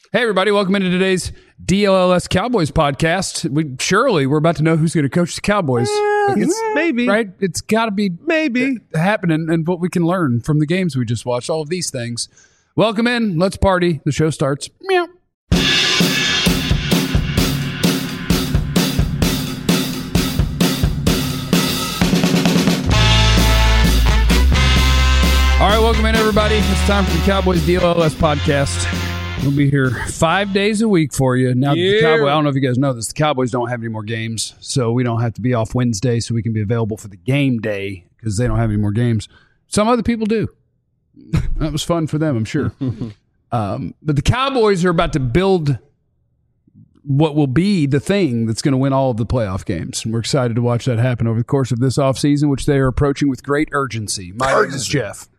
Hey, everybody. Welcome into today's DLLS Cowboys podcast. We're about to know who's going to coach the Cowboys. Maybe. Right? It's got to be maybe happening, and what we can learn from the games we just watched, all of these things. Welcome in. Let's party. The show starts. Meow. All right, welcome in, everybody. It's time for the Cowboys DLLS podcast. We'll be here 5 days a week for you. Now, the Cowboys, I don't know if you guys know this, the Cowboys don't have any more games, so we don't have to be off Wednesday so we can be available for the game day because they don't have any more games. Some other people do. That was fun for them, I'm sure. But the Cowboys are about to build what will be the thing that's going to win all of the playoff games. And we're excited to watch that happen over the course of this offseason, which they are approaching with great urgency. My name is Jeff.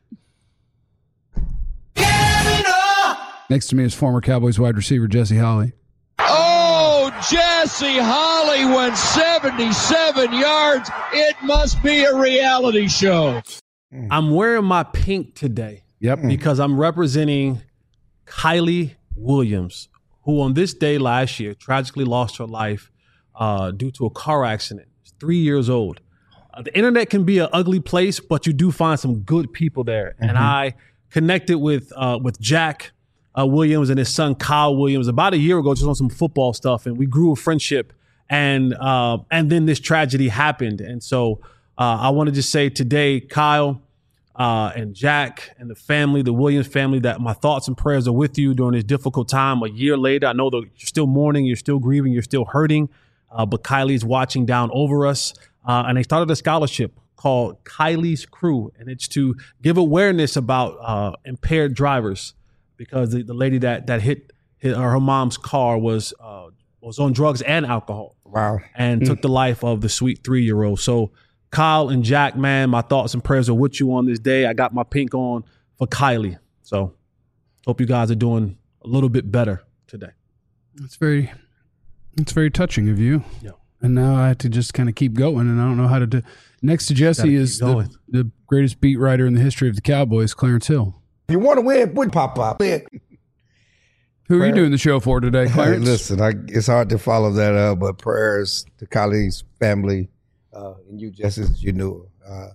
Next to me is former Cowboys wide receiver Jesse Holley. Oh, Jesse Holley went 77 yards. It must be a reality show. I'm wearing my pink today. Yep. Because I'm representing Kylie Williams, who on this day last year tragically lost her life due to a car accident. She's 3 years old. The internet can be an ugly place, but you do find some good people there. Mm-hmm. And I connected with Jack Williams and his son Kyle Williams about a year ago, just on some football stuff, and we grew a friendship. And then this tragedy happened, and so I want to just say today, Kyle and Jack and the family, the Williams family, that my thoughts and prayers are with you during this difficult time. A year later, I know that you're still mourning, you're still grieving, you're still hurting, but Kylie's watching down over us, and they started a scholarship called Kylie's Crew, and it's to give awareness about impaired drivers. Because the lady that hit her mom's car was on drugs and alcohol. Wow. And took the life of the sweet 3-year-old. So Kyle and Jack, man, my thoughts and prayers are with you on this day. I got my pink on for Kylie. So hope you guys are doing a little bit better today. It's very touching of you. Yeah. And now I have to just kind of keep going, and I don't know how to do. Next to Jesse is the greatest beat writer in the history of the Cowboys, Clarence Hill. If you want to win, put pop up. Who are you doing the show for today, Clarence? Hey, listen, it's hard to follow that up, but prayers to Kylie's family and you, Jesse, as you knew.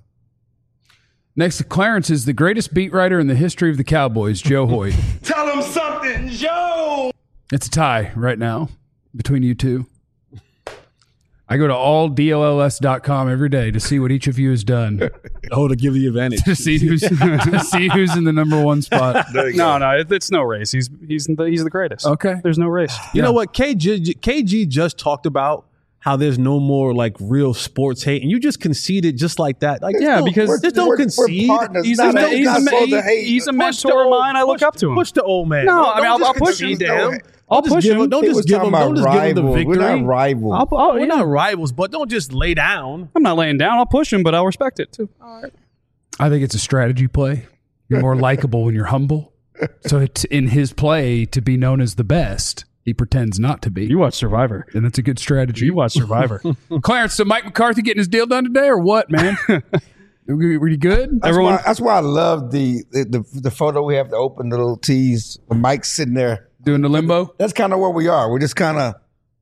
Next to Clarence is the greatest beat writer in the history of the Cowboys, Joe Hoyt. Tell him something, Joe! It's a tie right now between you two. I go to alldlls.com every day to see what each of you has done. To give the advantage. to see who's in the number one spot. No, it's no race. He's the greatest. Okay. There's no race. You know what? KG just talked about how there's no more like real sports hate, and you just conceded just like that. Like, because just don't concede. He's a mentor of mine. I look up to him. Push the old man. No, I'll push him. I'll just give him. Don't just give him the victory. We're not rivals. We're not rivals, but don't just lay down. I'm not laying down. I'll push him, but I'll respect it too. All right. I think it's a strategy play. You're more likable when you're humble. So it's in his play to be known as the best. He pretends not to be. You watch Survivor. And that's a good strategy. You watch Survivor. Clarence, so Mike McCarthy getting his deal done today or what, man? Were you good? That's why I love the photo we have to open, the little tease. Mike's sitting there. Doing the limbo? That's kind of where we are. We're just kind of,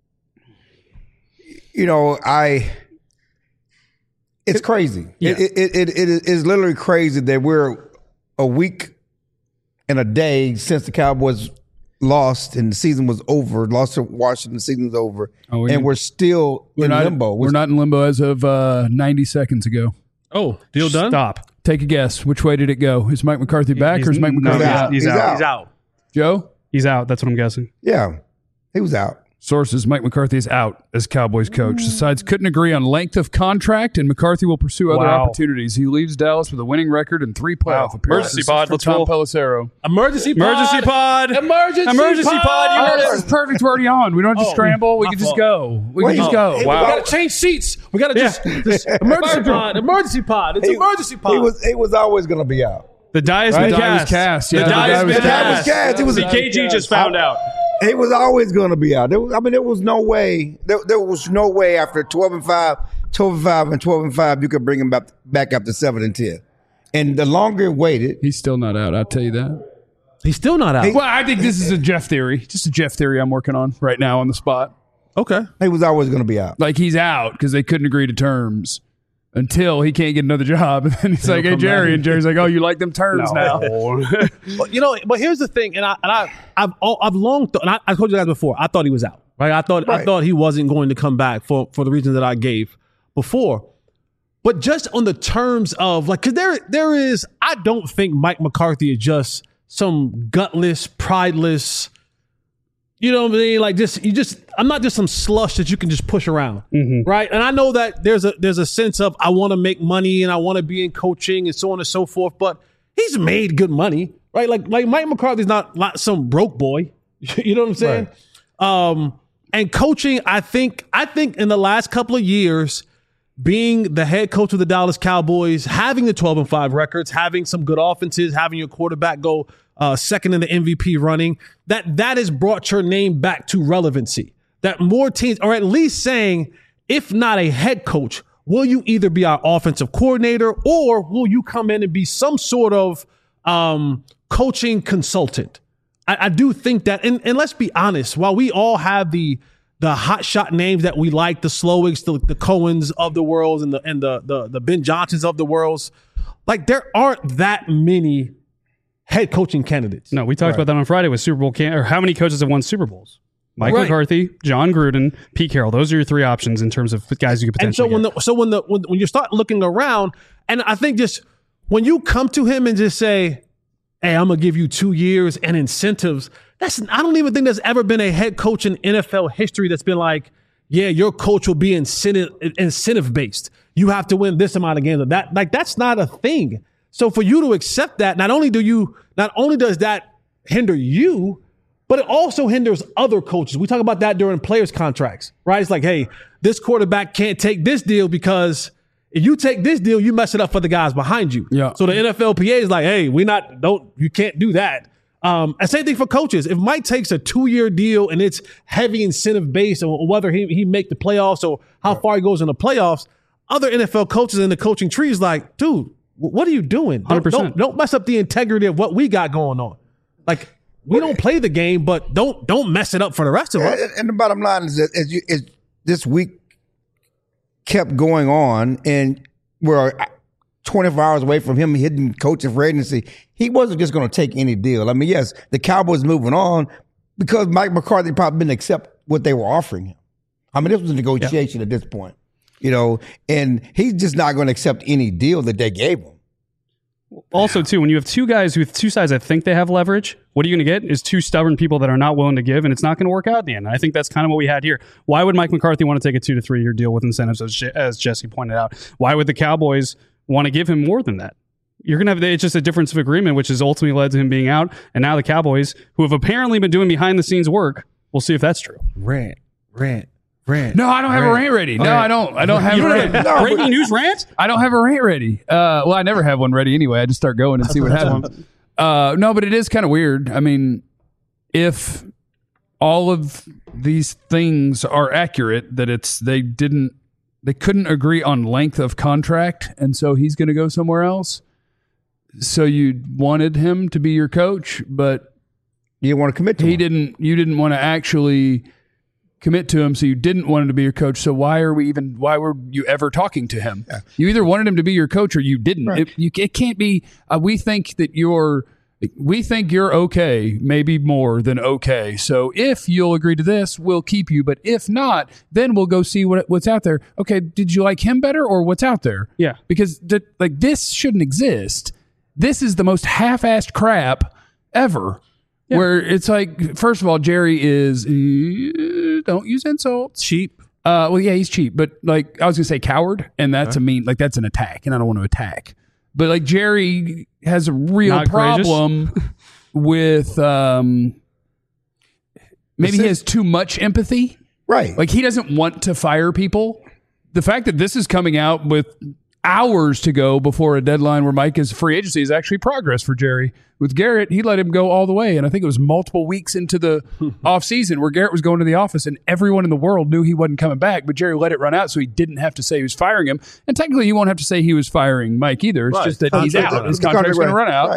it's crazy. Yeah. It is literally crazy that we're a week and a day since the Cowboys lost and the season was over, lost to Washington, the season's over, and we're still in limbo. We're not in limbo as of 90 seconds ago. Oh, deal done? Stop. Take a guess. Which way did it go? Is Mike McCarthy back or is Mike McCarthy out? He's out. Joe? He's out. That's what I'm guessing. Yeah, he was out. Sources, Mike McCarthy is out as Cowboys coach. The sides couldn't agree on length of contract, and McCarthy will pursue other opportunities. He leaves Dallas with a winning record and 3 playoff appearances. Emergency pod. Let's Tom roll. Pelissero. Emergency pod. Emergency pod. Emergency pod. You heard it. This is perfect. We're already on. We don't have to scramble. We can just go. We can just go. Hey, Wow. We got to change seats. We got to just emergency pod. Emergency pod. It's emergency pod. He was always going to be out. The die has been cast. Yeah, the die has been cast. cast. It was KG just found out. He was always going to be out. There was no way. There was no way after 12-5, 12-5, you could bring him back up to 7-10. And the longer it waited, he's still not out. I'll tell you that. He's still not out. Well, I think this is a Jeff theory. Just a Jeff theory I'm working on right now on the spot. Okay. He was always going to be out. Like he's out because they couldn't agree to terms until he can't get another job. And then he's like, hey, Jerry. And Jerry's like, oh, you like them terms now. But but here's the thing. And I've long thought, and I told you guys before, I thought he was out. Right? I thought he wasn't going to come back for the reason that I gave before. But just on the terms of like, because there is, I don't think Mike McCarthy is just some gutless, prideless, you know what I mean? Like I'm not just some slush that you can just push around, right? And I know that there's a sense of I want to make money and I want to be in coaching and so on and so forth. But he's made good money, right? Like Mike McCarthy's not some broke boy. You know what I'm saying? Right. And coaching, I think in the last couple of years, being the head coach of the Dallas Cowboys, having the 12-5 records, having some good offenses, having your quarterback go second in the MVP running, that has brought your name back to relevancy. That more teams are at least saying, if not a head coach, will you either be our offensive coordinator or will you come in and be some sort of coaching consultant? I do think that, and let's be honest, while we all have the hot shot names that we like, the Slowigs, the Cohens of the world, and the Ben Johnsons of the world, like there aren't that many head coaching candidates. No, we talked about that on Friday with Super Bowl or how many coaches have won Super Bowls? Mike McCarthy, John Gruden, Pete Carroll. Those are your three options in terms of guys you could potentially get. When you start looking around, and I think just when you come to him and just say, hey, I'm going to give you 2 years and incentives. I don't even think there's ever been a head coach in NFL history that's been like, yeah, your coach will be incentive based. You have to win this amount of games. That's not a thing. So for you to accept that, not only does that hinder you, but it also hinders other coaches. We talk about that during players' contracts, right? It's like, hey, this quarterback can't take this deal because if you take this deal, you mess it up for the guys behind you. Yeah. So the NFLPA is like, hey, you can't do that. And same thing for coaches. If Mike takes a 2-year deal and it's heavy incentive based on whether he make the playoffs or how far he goes in the playoffs, other NFL coaches in the coaching tree is like, dude, what are you doing? 100%. Don't mess up the integrity of what we got going on. Like, we don't play the game, but don't mess it up for the rest of us. And the bottom line is that as this week kept going on, and we're 24 hours away from him hitting coaching for agency, he wasn't just going to take any deal. I mean, yes, the Cowboys moving on because Mike McCarthy probably didn't accept what they were offering him. I mean, this was a negotiation at this point, and he's just not going to accept any deal that they gave him. Also, too, when you have two guys with two sides that think they have leverage, what are you going to get is two stubborn people that are not willing to give, and it's not going to work out at the end. I think that's kind of what we had here. Why would Mike McCarthy want to take a 2 to 3 year deal with incentives, as Jesse pointed out? Why would the Cowboys want to give him more than that? You're going to have it's just a difference of agreement, which has ultimately led to him being out. And now the Cowboys, who have apparently been doing behind the scenes work, we'll see if that's true. Rant. No, I don't have a rant ready. No, I don't have a rant. Breaking news rant? I don't have a rant ready. Well, I never have one ready anyway. I just start going and see what happens. No, but it is kind of weird. I mean, if all of these things are accurate, that they couldn't agree on length of contract, and so he's going to go somewhere else. So you wanted him to be your coach, but you didn't want to commit to him. You didn't want to actually commit to him, so you didn't want him to be your coach. So why were you ever talking to him? Yeah. You either wanted him to be your coach or you didn't. Right. It can't be. We think you're okay, maybe more than okay. So if you'll agree to this, we'll keep you. But if not, then we'll go see what's out there. Okay, did you like him better or what's out there? Yeah, because this shouldn't exist. This is the most half-assed crap ever. Yeah. Where it's like, first of all, Jerry is don't use insults. Cheap. Well, yeah, he's cheap, but I was gonna say coward, and that's that's an attack, and I don't want to attack. But Jerry has a real problem with maybe he has too much empathy. Right. He doesn't want to fire people. The fact that this is coming out with hours to go before a deadline where Mike is free agency is actually progress for Jerry. With Garrett, he let him go all the way. And I think it was multiple weeks into the offseason where Garrett was going to the office and everyone in the world knew he wasn't coming back, but Jerry let it run out so he didn't have to say he was firing him. And technically, he won't have to say he was firing Mike either. It's just that he's out. His contract's going to run out. Right.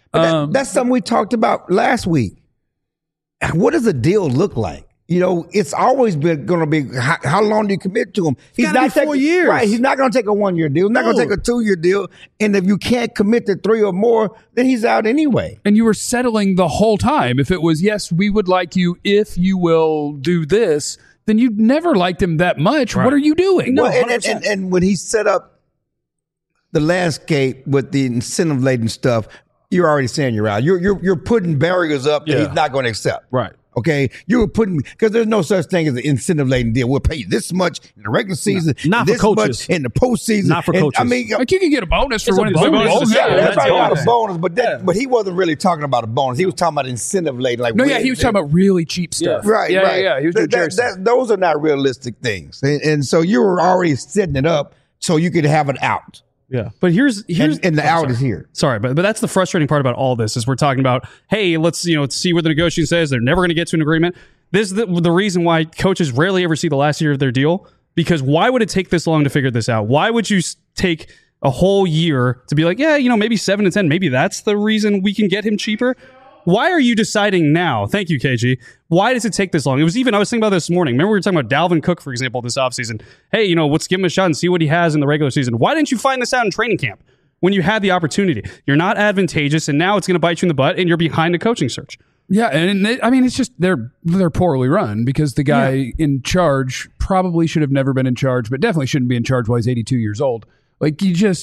That's something we talked about last week. What does a deal look like? You know, it's always been going to be how long do you commit to him? He's not 4 years. Right. He's not going to take a 1-year deal. He's not going to take a 2-year deal. And if you can't commit to 3 or more, then he's out anyway. And you were settling the whole time. If it was, yes, we would like you if you will do this, then you never liked him that much. Right. What are you doing? No, and when he set up the landscape with the incentive-laden stuff, you're already saying you're out. You're putting barriers up that he's not going to accept. Right. Okay, you were putting, because there's no such thing as an incentive-laden deal. We'll pay you this much in the regular season, not this for coaches, much in the postseason. Not for coaches. I mean, like you can get a bonus for winning the Super Bowl. Yeah, everybody got a bonus, but he wasn't really talking about a bonus. He was talking about incentive-laden. Like he was talking about really cheap stuff. Yeah. Right. Yeah. He was doing those are not realistic things, and so you were already setting it up so you could have an out. Yeah, but here's and the out is here. Sorry, but that's the frustrating part about all this is we're talking about, hey, let's see what the negotiation says. They're never going to get to an agreement. This is the reason why coaches rarely ever see the last year of their deal, because why would it take this long to figure this out? Why would you take a whole year to be like, maybe 7 to 10, maybe that's the reason we can get him cheaper? Why are you deciding now? Thank you, KG. Why does it take this long? I was thinking about this morning. Remember we were talking about Dalvin Cook, for example, this offseason. Hey, let's give him a shot and see what he has in the regular season. Why didn't you find this out in training camp when you had the opportunity? You're not advantageous, and now it's going to bite you in the butt, and you're behind a coaching search. Yeah, and it's just they're poorly run because the guy in charge probably should have never been in charge, but definitely shouldn't be in charge while he's 82 years old. Like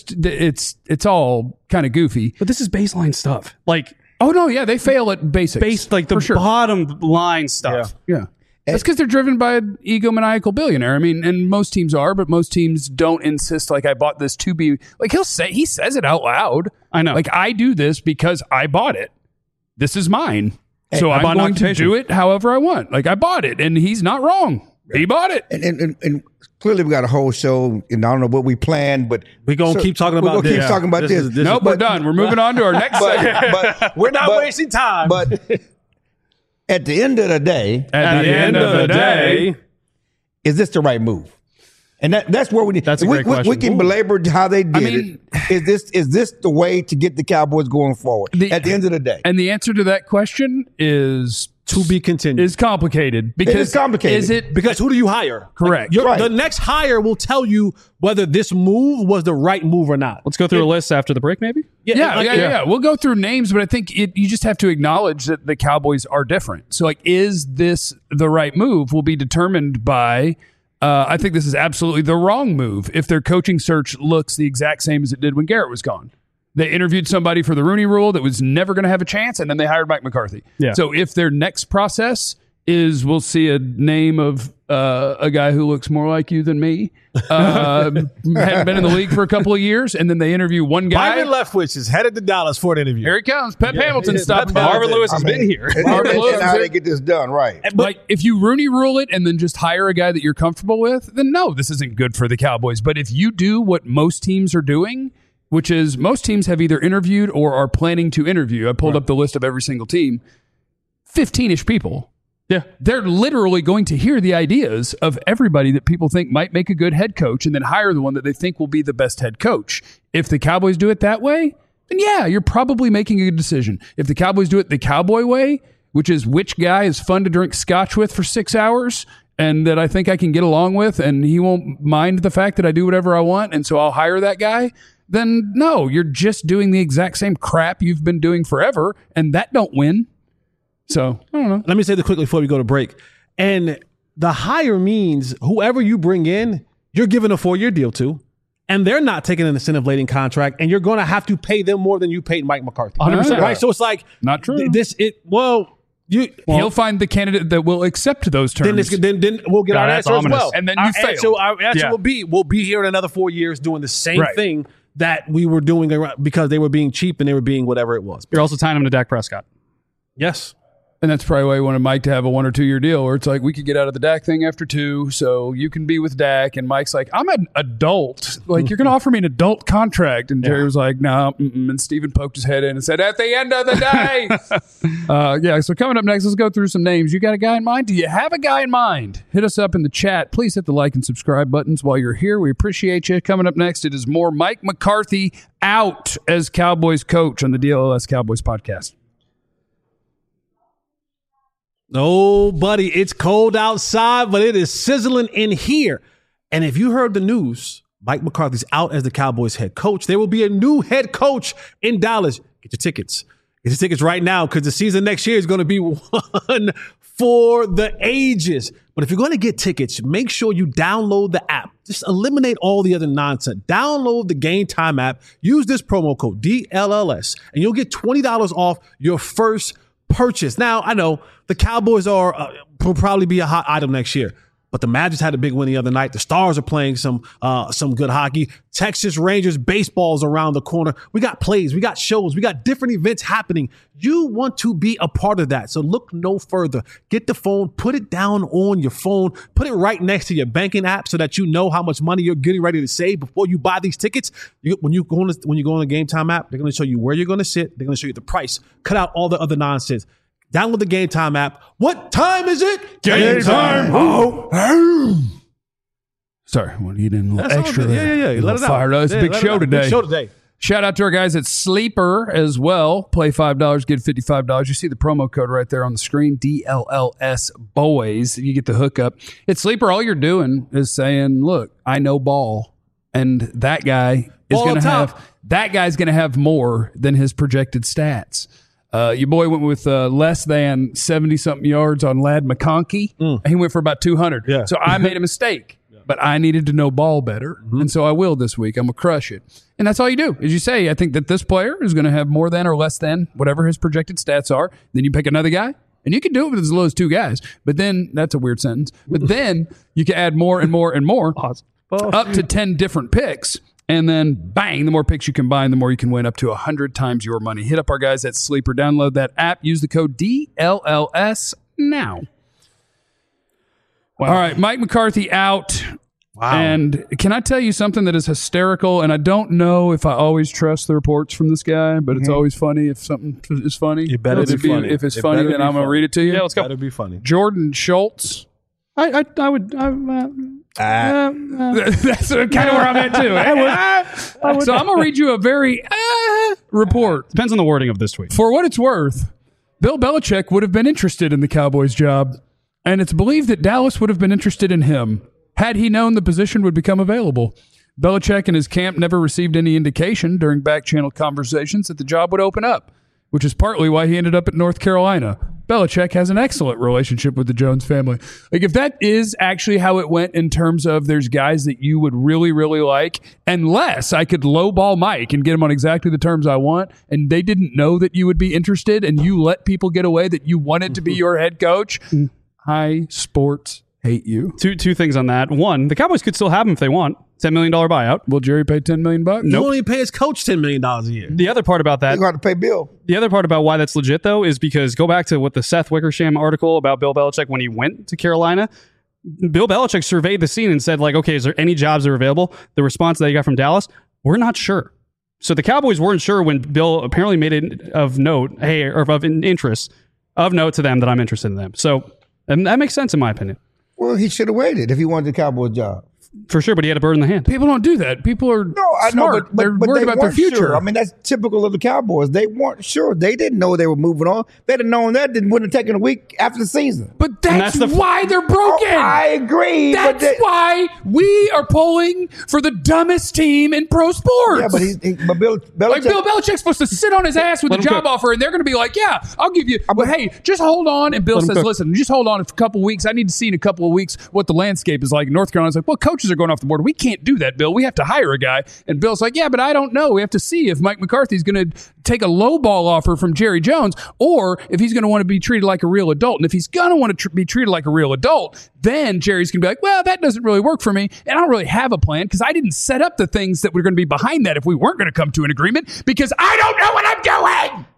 it's all kind of goofy. But this is baseline stuff. Like, oh no, yeah, they fail at basics. Like the bottom line stuff. Yeah. That's because they're driven by an egomaniacal billionaire. I mean, and most teams are, but most teams don't insist, like, I bought this to be, like, he says it out loud. I know. Like, I do this because I bought it. This is mine. So I'm going to do it however I want. Like, I bought it, and he's not wrong. He bought it. And clearly we got a whole show, and I don't know what we planned, but we're going to keep talking about this. We're going to keep talking about this. Nope, we're done. We're moving on to our next segment. But we're not wasting time. But at the end of the day, is this the right move? And that's where we need. That's a great question. We can belabor how they did it. Is this the way to get the Cowboys going forward? At the end of the day, and the answer to that question is to be continued. Is complicated because it's complicated. Is it because who do you hire? Correct. Like, the next hire will tell you whether this move was the right move or not. Let's go through a list after the break, maybe. Yeah. We'll go through names, but I think you just have to acknowledge that the Cowboys are different. So, like, is this the right move? Will be determined by. I think this is absolutely the wrong move if their coaching search looks the exact same as it did when Garrett was gone. They interviewed somebody for the Rooney Rule that was never going to have a chance, and then they hired Mike McCarthy. Yeah. So if their next process is we'll see a name of a guy who looks more like you than me, hadn't been in the league for a couple of years, and then they interview one guy. Byron Leftwich is headed to Dallas for an interview. Here he comes. Pep Hamilton stopping by. Marvin Lewis has been here. Marvin Lewis, how they get this done, right? Like, if you Rooney Rule it and then just hire a guy that you're comfortable with, then no, this isn't good for the Cowboys. But if you do what most teams are doing, which is most teams have either interviewed or are planning to interview. I pulled up the list of every single team. 15-ish people. Yeah. They're literally going to hear the ideas of everybody that people think might make a good head coach and then hire the one that they think will be the best head coach. If the Cowboys do it that way, then yeah, you're probably making a good decision. If the Cowboys do it the Cowboy way, which is which guy is fun to drink scotch with for 6 hours and that I think I can get along with and he won't mind the fact that I do whatever I want and so I'll hire that guy, then no, you're just doing the exact same crap you've been doing forever, and that don't win. So, I don't know. Let me say this quickly before we go to break. And the hire means whoever you bring in, you're giving a 4-year deal to, and they're not taking an incentive-laden contract, and you're going to have to pay them more than you paid Mike McCarthy. 100%. Right? So it's like... Not true. He'll find the candidate that will accept those terms. Then we'll get our answer as well. And then you fail. So our answer will be, we'll be here in another 4 years doing the same thing that we were doing because they were being cheap and they were being whatever it was. You're also tying him to Dak Prescott. Yes. And that's probably why he wanted Mike to have a 1 or 2 year deal where it's like, we could get out of the Dak thing after 2, so you can be with Dak. And Mike's like, I'm an adult. Like, you're going to offer me an adult contract. And Jerry was like, no. And Steven poked his head in and said, at the end of the day. So coming up next, let's go through some names. You got a guy in mind? Do you have a guy in mind? Hit us up in the chat. Please hit the like and subscribe buttons while you're here. We appreciate you. Coming up next, it is more Mike McCarthy out as Cowboys coach on the DLLS Cowboys podcast. Oh, buddy, it's cold outside, but it is sizzling in here. And if you heard the news, Mike McCarthy's out as the Cowboys head coach. There will be a new head coach in Dallas. Get your tickets. Get your tickets right now because the season next year is going to be one for the ages. But if you're going to get tickets, make sure you download the app. Just eliminate all the other nonsense. Download the Game Time app. Use this promo code DLLS, and you'll get $20 off your first purchase. Now, I know the Cowboys will probably be a hot item next year, but the Magic had a big win the other night. The Stars are playing some good hockey. Texas Rangers baseball is around the corner. We got plays, we got shows, we got different events happening. You want to be a part of that, so look no further. Get the phone, put it down on your phone, put it right next to your banking app so that you know how much money you're getting ready to save before you buy these tickets. When you go on the Game Time app, they're going to show you where you're going to sit. They're going to show you the price. Cut out all the other nonsense. Download the Game Time app. What time is it? Game time. Sorry, well, you didn't extra there. Yeah. Let it out. It's a big show today. Big show today. Shout out to our guys at Sleeper as well. Play $5, get $55. You see the promo code right there on the screen, DLLS Boys. You get the hookup. At Sleeper, all you're doing is saying, look, I know ball, and that guy is going to have more than his projected stats. Your boy went with less than 70-something yards on Ladd McConkey. He went for about 200. Yeah. So I made a mistake, but I needed to know ball better. And so I will this week. I'm going to crush it. And that's all you do is you say, I think that this player is going to have more than or less than whatever his projected stats are. Then you pick another guy. And you can do it with as low as 2 guys. But then, that's a weird sentence. But then you can add more and more and more up to 10 different picks. And then, bang, the more picks you combine, the more you can win, up to 100 times your money. Hit up our guys at Sleeper. Download that app. Use the code DLLS now. Wow. All right, Mike McCarthy out. Wow. And can I tell you something that is hysterical? And I don't know if I always trust the reports from this guy, but it's always funny if something is funny. It better be funny. If it's funny, then I'm going to read it to you. Yeah, let's go. It better be funny. Jordan Schultz. I would. That's kind of where I'm at too. I would. So I'm gonna read you a very report. Depends on the wording of this tweet. For what it's worth, Bill Belichick would have been interested in the Cowboys job, and it's believed that Dallas would have been interested in him had he known the position would become available. Belichick and his camp never received any indication during back-channel conversations that the job would open up, which is partly why he ended up at North Carolina. Belichick has an excellent relationship with the Jones family. Like, if that is actually how it went in terms of there's guys that you would really, really like, unless I could lowball Mike and get him on exactly the terms I want, and they didn't know that you would be interested, and you let people get away that you wanted to be your head coach, I sports hate you. Two things on that. One, the Cowboys could still have him if they want. $10 million buyout. Will Jerry pay $10 million? Nope. You only pay his coach $10 million a year. The other part about that, you're going to pay Bill. The other part about why that's legit, though, is because go back to what the Seth Wickersham article about Bill Belichick when he went to Carolina. Bill Belichick surveyed the scene and said, like, okay, is there any jobs that are available? The response that he got from Dallas, we're not sure. So the Cowboys weren't sure when Bill apparently made it of note, or of interest, of note to them that I'm interested in them. So, and that makes sense in my opinion. Well, he should have waited if he wanted the Cowboys job. For sure, but he had a bird in the hand. People don't do that. People are I smart. know, but they're worried about their future. Sure. I mean, that's typical of the Cowboys. They weren't sure. They didn't know they were moving on. If they'd have known that, they wouldn't have taken a week after the season. But that's why they're broken. Oh, I agree. That's why we are polling for the dumbest team in pro sports. Yeah, but Bill Belichick. Like, Bill Belichick's supposed to sit on his ass with a job offer, and they're going to be like, yeah, I'll give you. But hey, just hold on. And Bill says, listen, just hold on for a couple of weeks. I need to see in a couple of weeks what the landscape is like. North Carolina's like, well, coaches are going off the board. We can't do that, Bill. We have to hire a guy. And Bill's like, yeah, but I don't know. We have to see if Mike McCarthy's going to take a low ball offer from Jerry Jones, or if he's going to want to be treated like a real adult. And if he's going to want to be treated like a real adult, then Jerry's going to be like, well, that doesn't really work for me. And I don't really have a plan because I didn't set up the things that were going to be behind that if we weren't going to come to an agreement, because I don't know what I'm doing.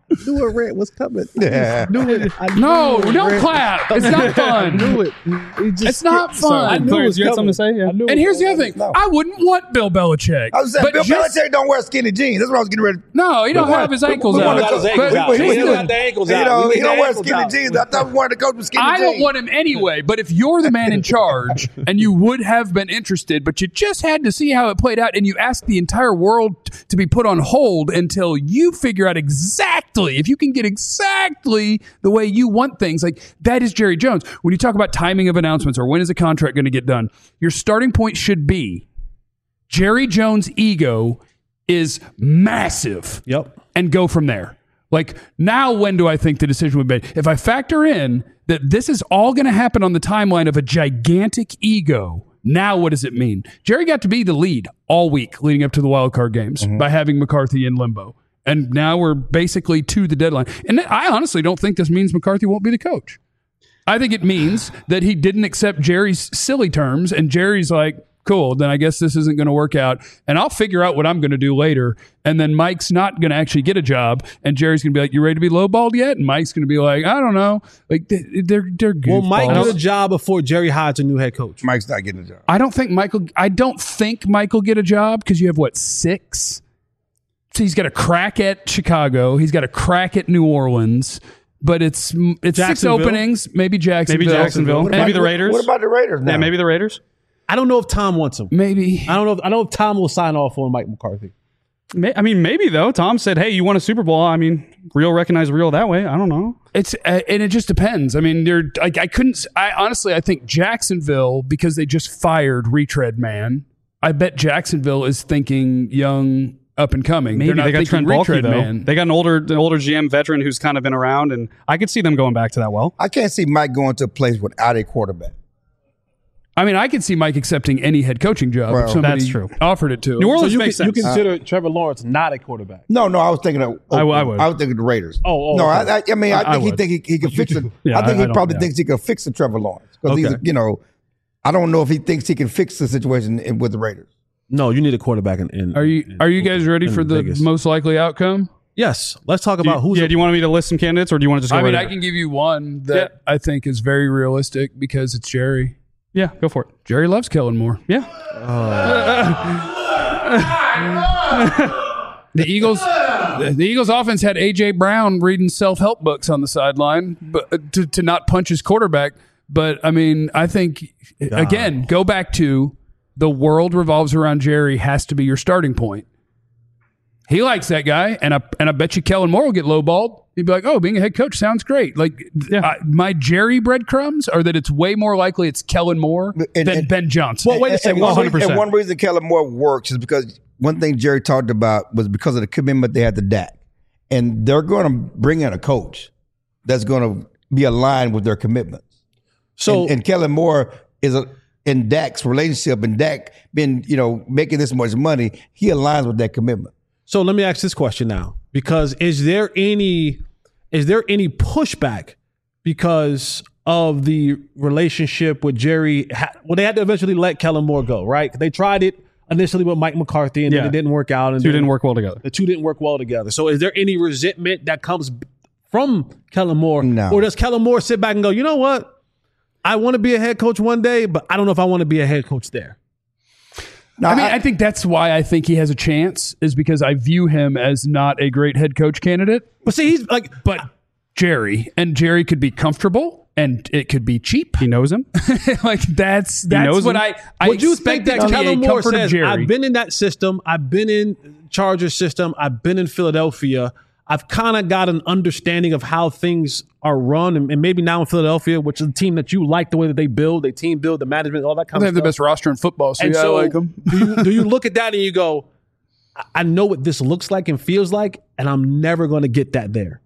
knew a rant was coming. Yeah. No, don't clap. It's not fun. I knew it. It's not fun. I knew it was you had something to say? Yeah. And here's the other thing. No. I wouldn't want Bill Belichick. I was saying, Bill Belichick don't wear skinny jeans. That's what I was getting ready. No, he don't have his ankles out. got his ankles out. He got the ankles out. He don't wear skinny jeans. I thought we wanted to coach with skinny jeans. I don't want him anyway, but if you're the man in charge and you would have been interested, but you just had to see how it played out and you asked the entire world to be put on hold until you figure out exactly, if you can get exactly the way you want things, like that is Jerry Jones. When you talk about timing of announcements or when is a contract going to get done, your starting point should be Jerry Jones' ego is massive. Yep. And go from there. Like, now when do I think the decision would be made? If I factor in that this is all going to happen on the timeline of a gigantic ego, now what does it mean? Jerry got to be the lead all week leading up to the wild card games by having McCarthy in limbo. And now we're basically to the deadline. And I honestly don't think this means McCarthy won't be the coach. I think it means that he didn't accept Jerry's silly terms, and Jerry's like, cool, then I guess this isn't going to work out, and I'll figure out what I'm going to do later. And then Mike's not going to actually get a job, and Jerry's going to be like, you ready to be lowballed yet? And Mike's going to be like, I don't know. Like, they're good. Will Mike get a job before Jerry hires a new head coach? Mike's not getting a job. I don't think Michael get a job because you have, 6? So he's got a crack at Chicago. He's got a crack at New Orleans. But it's 6 openings, maybe Jacksonville. Maybe the Raiders. What about the Raiders now? Yeah, maybe the Raiders. I don't know if Tom wants him. Maybe. I don't know if Tom will sign off on Mike McCarthy. I mean, maybe though. Tom said, "Hey, you won a Super Bowl." I mean, real recognize real that way. I don't know. It's and it just depends. I mean, I think Jacksonville, because they just fired Retread Man. I bet Jacksonville is thinking young, up and coming. Maybe they got Trent Baalke though. Man. They got an older GM veteran who's kind of been around, and I could see them going back to that. Well, I can't see Mike going to a place without a quarterback. I mean, I could see Mike accepting any head coaching job if somebody that's true. offered it to him. New Orleans makes sense. You consider Trevor Lawrence not a quarterback? No, I was thinking of. I would. I was thinking of the Raiders. No, okay. I think he could fix it. Yeah, I think he probably thinks he could fix the Trevor Lawrence because he's, I don't know if he thinks he can fix the situation with the Raiders. No, you need a quarterback. Are you guys ready for the Vegas. Most likely outcome? Yes. Let's talk about who's. Do you want me to list some candidates, or do you want to just go? I can give you one that I think is very realistic because it's Jerry. Yeah, go for it. Jerry loves Kellen Moore. Yeah. The Eagles offense had A.J. Brown reading self-help books on the sideline but to not punch his quarterback. But, I mean, I think, again, go back to the world revolves around Jerry has to be your starting point. He likes that guy, and I bet you Kellen Moore will get lowballed. He'd be like, oh, being a head coach sounds great. Like, my Jerry breadcrumbs are that it's way more likely it's Kellen Moore than Ben Johnson. Well, wait a second. 100%. And one reason Kellen Moore works is because one thing Jerry talked about was because of the commitment they had to Dak. And they're going to bring in a coach that's going to be aligned with their commitments. So, and Kellen Moore is in Dak's relationship, and Dak been, making this much money, he aligns with that commitment. So let me ask this question now, because is there any pushback because of the relationship with Jerry? Well, they had to eventually let Kellen Moore go, right? They tried it initially with Mike McCarthy, and then it didn't work out. And the two didn't work well together. So is there any resentment that comes from Kellen Moore? No. Or does Kellen Moore sit back and go, you know what? I want to be a head coach one day, but I don't know if I want to be a head coach there. No, I think that's why I think he has a chance, is because I view him as not a great head coach candidate. But see, he's like, but Jerry could be comfortable and it could be cheap. He knows him. Like that's what I would you expect think that Kellen Moore says, I've been in that system. I've been in Chargers system. I've been in Philadelphia. I've kind of got an understanding of how things are run, and maybe now in Philadelphia, which is a team that you like the way that they build, they team build, the management, all that kind of stuff. They have the best roster in football, so I like them. Do you look at that and you go, I know what this looks like and feels like, and I'm never going to get that there?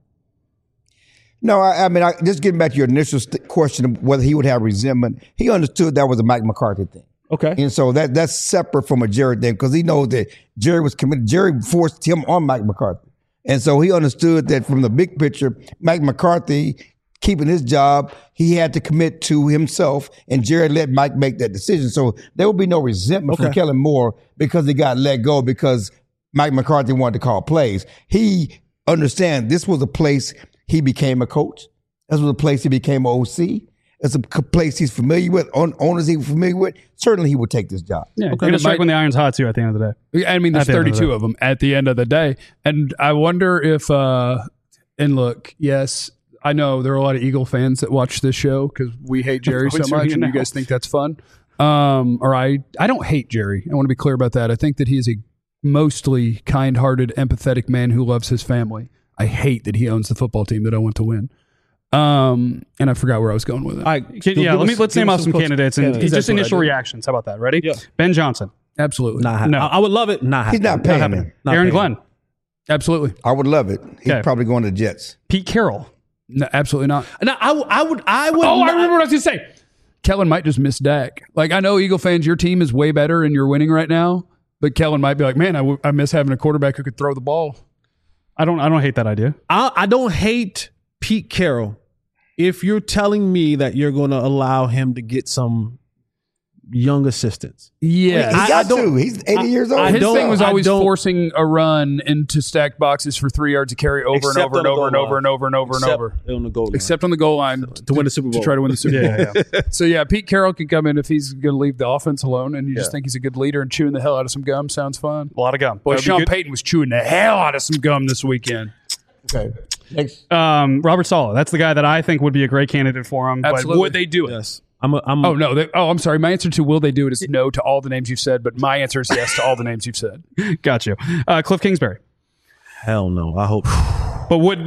No, I mean, just getting back to your initial question of whether he would have resentment, he understood that was a Mike McCarthy thing. Okay. And so that's separate from a Jerry thing, because he knows that Jerry was committed. Jerry forced him on Mike McCarthy. And so he understood that from the big picture, Mike McCarthy keeping his job, he had to commit to himself, and Jerry let Mike make that decision. So there will be no resentment from Kellen Moore because he got let go because Mike McCarthy wanted to call plays. He understand this was a place he became a coach. This was a place he became an OC. It's a place he's familiar with, owners he's familiar with. Certainly he would take this job. Yeah, okay. Strike when the iron's hot too at the end of the day. I mean, there's 32 of them at the end of the day. And I wonder if, and look, yes, I know there are a lot of Eagle fans that watch this show because we hate Jerry so much and you guys think that's fun. Or I don't hate Jerry. I want to be clear about that. I think that he is a mostly kind-hearted, empathetic man who loves his family. I hate that he owns the football team that I want to win. And I forgot where I was going with it. Let's name off some candidates and just initial reactions. How about that? Ready? Yeah. Ben Johnson. Absolutely. No, I would love it. He's not paying him. Aaron Glenn. Absolutely. I would love it. He's probably going to the Jets. Pete Carroll. No, absolutely not. No, I would. Oh, I remember what I was going to say. Kellen might just miss Dak. Like, I know Eagle fans, your team is way better and you're winning right now, but Kellen might be like, man, I miss having a quarterback who could throw the ball. I don't hate that idea. I don't hate Pete Carroll if you're telling me that you're going to allow him to get some young assistants. Yeah. He got to. He's 80 years old. His thing was always forcing a run into stacked boxes for 3 yards to carry over and over and over and over and over and over and over. On the goal line. Except on the goal line to win the Super Bowl. To try to win the Super Bowl. Yeah. So, yeah, Pete Carroll could come in if he's going to leave the offense alone and you just think he's a good leader and chewing the hell out of some gum. Sounds fun. A lot of gum. Boy, Sean Payton was chewing the hell out of some gum this weekend. Okay. Next. Robert Saleh. That's the guy that I think would be a great candidate for him. Absolutely. But would they do it? Yes. I'm sorry. My answer to will they do it is no to all the names you've said, but my answer is yes to all the names you've said. Got you. Cliff Kingsbury. Hell no. I hope. But would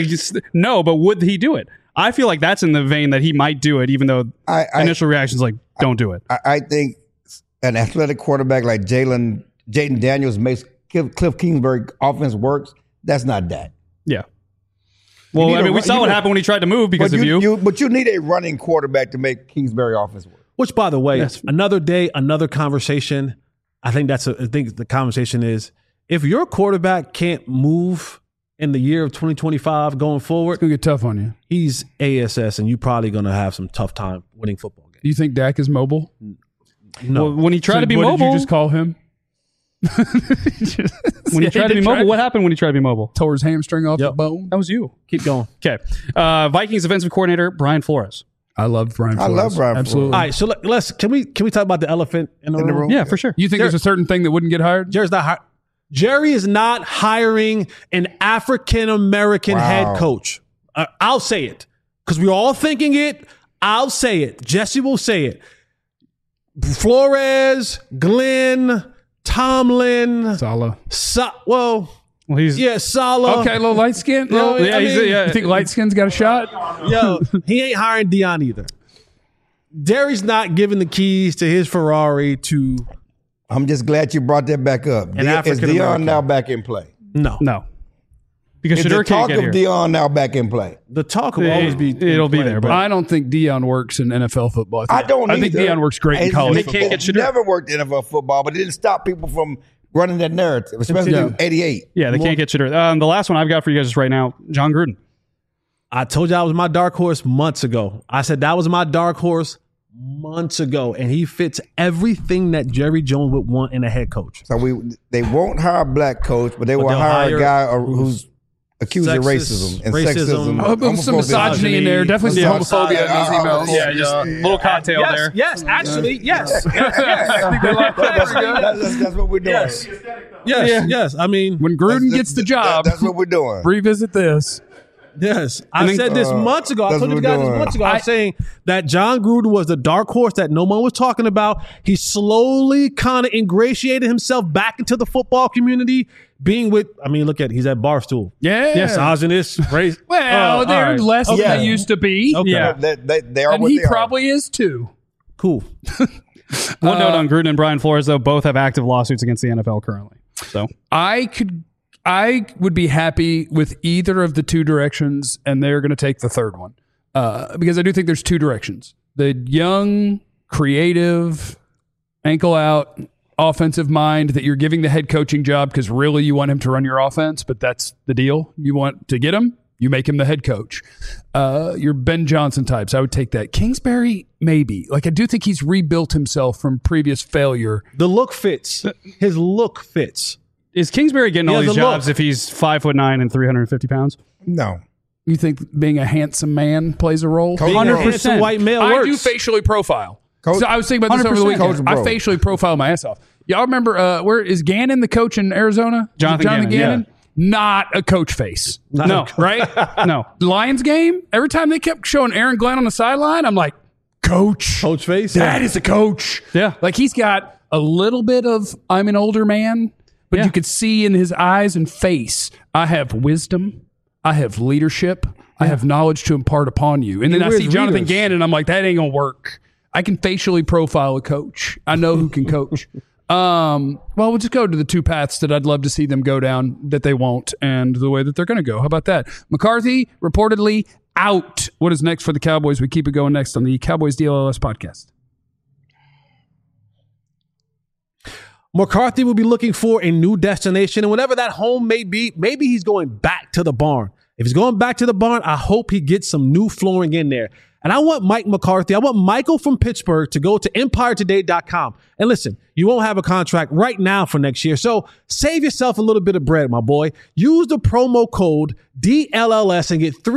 he do it? I feel like that's in the vein that he might do it, even though initial reactions like don't do it. I think an athletic quarterback like Jaden Daniels makes Cliff Kingsbury offense works. That's not that. Yeah. Well, I mean, we saw what happened when he tried to move because of you. But you need a running quarterback to make Kingsbury offense work. Which, by the way, another day, another conversation. I think the conversation is if your quarterback can't move in the year of 2025 going forward, it's gonna get tough on you. He's ASS, and you're probably gonna have some tough time winning football games. Do you think Dak is mobile? No. Well, when he tried to be mobile, what did you just call him? When he tried to be mobile, what happened when he tried to be mobile? Tore his hamstring off the bone. That was you. Keep going. Okay. Vikings defensive coordinator Brian Flores. I love Brian Flores. I love Brian Absolutely. Flores. All right, so let's can we talk about the elephant in the room? Yeah, for sure. You think there's a certain thing that wouldn't get hired? Jerry is not hiring an African American head coach. I'll say it because we're all thinking it. I'll say it. Jesse will say it. Flores, Glenn, Tomlin, Saleh. Saleh. Okay, a little light skin. You think light skin's got a shot? Yo, he ain't hiring Dion either. Jerry's not giving the keys to his Ferrari to. I'm just glad you brought that back up. Is Dion now back in play? No. Because the talk of Dion now back in play. The talk will always be. It'll be there, but I don't think Dion works in NFL football. I think Dion works great in college football. It never worked in NFL football, but it didn't stop people from running that narrative, especially in 88. Yeah, they can't get you there. The last one I've got for you guys right now, John Gruden. I told you I was my dark horse months ago. I said that was my dark horse months ago, and he fits everything that Jerry Jones would want in a head coach. So they won't hire a black coach, but they will hire a guy who's accused of racism and sexism. Some misogyny in there. Definitely some homophobia in those emails. Yeah, just a little cocktail there. Yes, actually, yes. That's what we're doing. Yes. I mean, when Gruden gets the job, that's what we're doing. Revisit this. Yes. I said this months ago. I told you guys this months ago. I was saying that John Gruden was the dark horse that no one was talking about. He slowly kind of ingratiated himself back into the football community, being with, look at, he's at Barstool. Yeah. Yes, I was in this race. Well, they're less than they used to be. Okay. Yeah. They are and what he they probably is too. Cool. One note on Gruden and Brian Flores, though, both have active lawsuits against the NFL currently. So I would be happy with either of the two directions, and they're going to take the third one because I do think there's two directions. The young, creative, ankle-out, offensive mind that you're giving the head coaching job because really you want him to run your offense, but that's the deal. You want to get him, you make him the head coach. Your Ben Johnson types, I would take that. Kingsbury, maybe. I do think he's rebuilt himself from previous failure. The look fits. His look fits. Is Kingsbury getting all these jobs if he's 5'9" and 350 pounds? No. You think being a handsome man plays a role? 100% white male works. I do facially profile. So I was thinking about this over the weekend. I facially profile my ass off. Y'all remember, where is Gannon the coach in Arizona? Jonathan Gannon? Yeah. Not a coach face. No. Right? No. Lions game, every time they kept showing Aaron Glenn on the sideline, I'm like, coach. Coach face? That is a coach. Yeah. Like he's got a little bit of, I'm an older man, but you could see in his eyes and face, I have wisdom. I have leadership. I have knowledge to impart upon you. And then I see Jonathan Gannon, I'm like, that ain't going to work. I can facially profile a coach. I know who can coach. Well, we'll just go to the two paths that I'd love to see them go down that they won't and the way that they're going to go. How about that? McCarthy reportedly out. What is next for the Cowboys? We keep it going next on the Cowboys DLLS podcast. McCarthy will be looking for a new destination, and whatever that home may be, maybe he's going back to the barn. If he's going back to the barn, I hope he gets some new flooring in there. And I want Mike McCarthy, I want Michael from Pittsburgh to go to EmpireToday.com. And listen, you won't have a contract right now for next year. So save yourself a little bit of bread, my boy. Use the promo code DLLS and get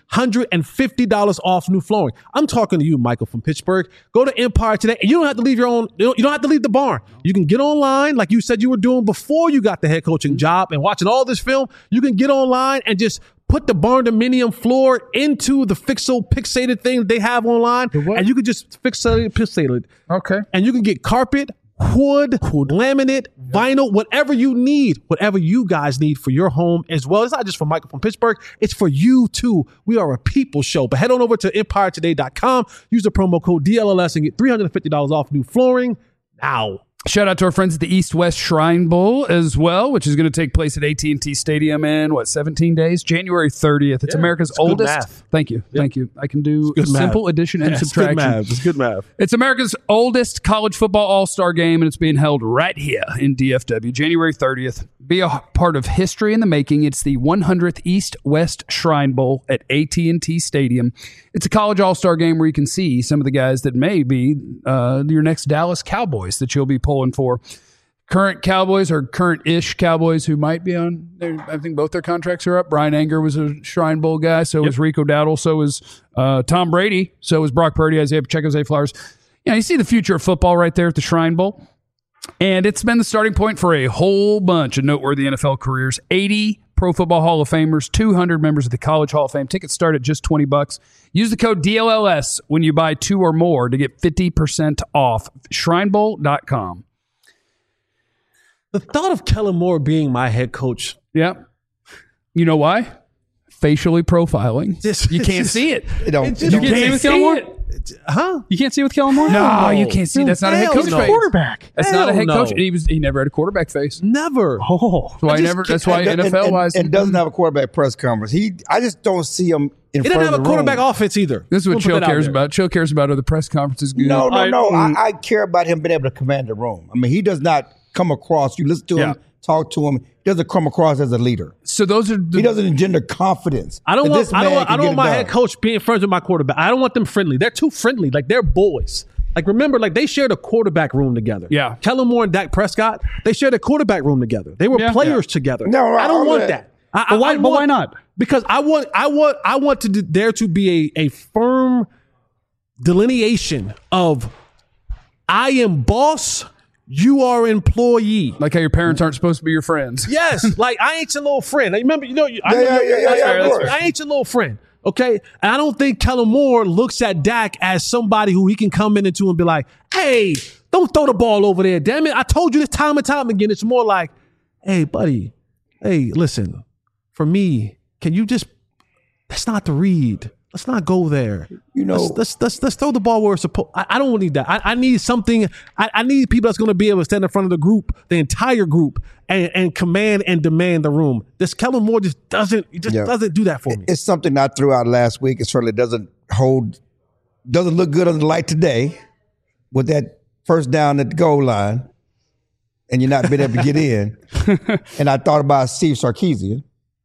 $350 off new flooring. I'm talking to you, Michael from Pittsburgh. Go to Empire Today, and you don't have to leave you don't have to leave the barn. You can get online like you said you were doing before you got the head coaching job and watching all this film. You can get online and just put the barn dominium floor into the fixated thing they have online, and you can just fixate it. Okay. And you can get carpet, wood, laminate, vinyl, whatever you need, whatever you guys need for your home as well. It's not just for Michael from Pittsburgh. It's for you too. We are a people show. But head on over to EmpireToday.com. Use the promo code DLLS and get $350 off new flooring now. Shout out to our friends at the East-West Shrine Bowl as well, which is going to take place at AT&T Stadium in, 17 days? January 30th. It's America's oldest. Math. Thank you. Thank you. I can do simple addition and subtraction. It's good math. It's America's oldest college football all-star game, and it's being held right here in DFW, January 30th. Be a part of history in the making. It's the 100th East-West Shrine Bowl at AT&T Stadium. It's a college all-star game where you can see some of the guys that may be your next Dallas Cowboys that you'll be pulling for. Current Cowboys or current-ish Cowboys who might be on there. I think both their contracts are up. Brian Anger was a Shrine Bowl guy. So was Rico Dowdle. So was Tom Brady. So was Brock Purdy, Isaiah Pacheco, Zay Flowers. You see the future of football right there at the Shrine Bowl. And it's been the starting point for a whole bunch of noteworthy NFL careers. 80 Pro Football Hall of Famers, 200 members of the College Hall of Fame. Tickets start at just $20. Use the code DLLS when you buy 2 or more to get 50% off. Shrinebowl.com. The thought of Kellen Moore being my head coach. Yeah. You know why? Facially profiling. You can't see it. You can't see with Kellen Moore? Huh? You can't see with Kellen Moore? No, you can't see. That's not a head coach face. Quarterback. That's not a head coach. He never had a quarterback face. Never. Oh. That's why NFL wise. And doesn't have a quarterback press conference. I just don't see him in front of the room. He doesn't have a quarterback offense either. This is what Chill cares about. Chill cares about are the press conferences good. No. I care about him being able to command the room. I mean, he does not come across. You listen to him, talk to him. He doesn't come across as a leader. So those are he doesn't engender confidence. I don't want my head coach being friends with my quarterback. I don't want them friendly. They're too friendly. Like they're boys. Like remember, like they shared a quarterback room together. Yeah. Kellen Moore and Dak Prescott, they shared a quarterback room together. They were players together. No, I don't want that. But why not? Because I want there to be a firm delineation of I am boss. You are employee. Like how your parents aren't supposed to be your friends. Yes. Like, I ain't your little friend. Remember, I ain't your little friend. Okay? And I don't think Kellen Moore looks at Dak as somebody who he can come into and be like, hey, don't throw the ball over there. Damn it. I told you this time and time again. It's more like, hey, buddy. Hey, listen. For me, can you just, that's not the read. Let's not go there. Let's throw the ball where it's supposed. I don't need that. I need something. I need people that's going to be able to stand in front of the group, the entire group, and command and demand the room. This Kellen Moore just doesn't do that for me. It's something I threw out last week. It certainly doesn't look good on the light today with that first down at the goal line, and you're not being able to get in. And I thought about Steve Sarkisian.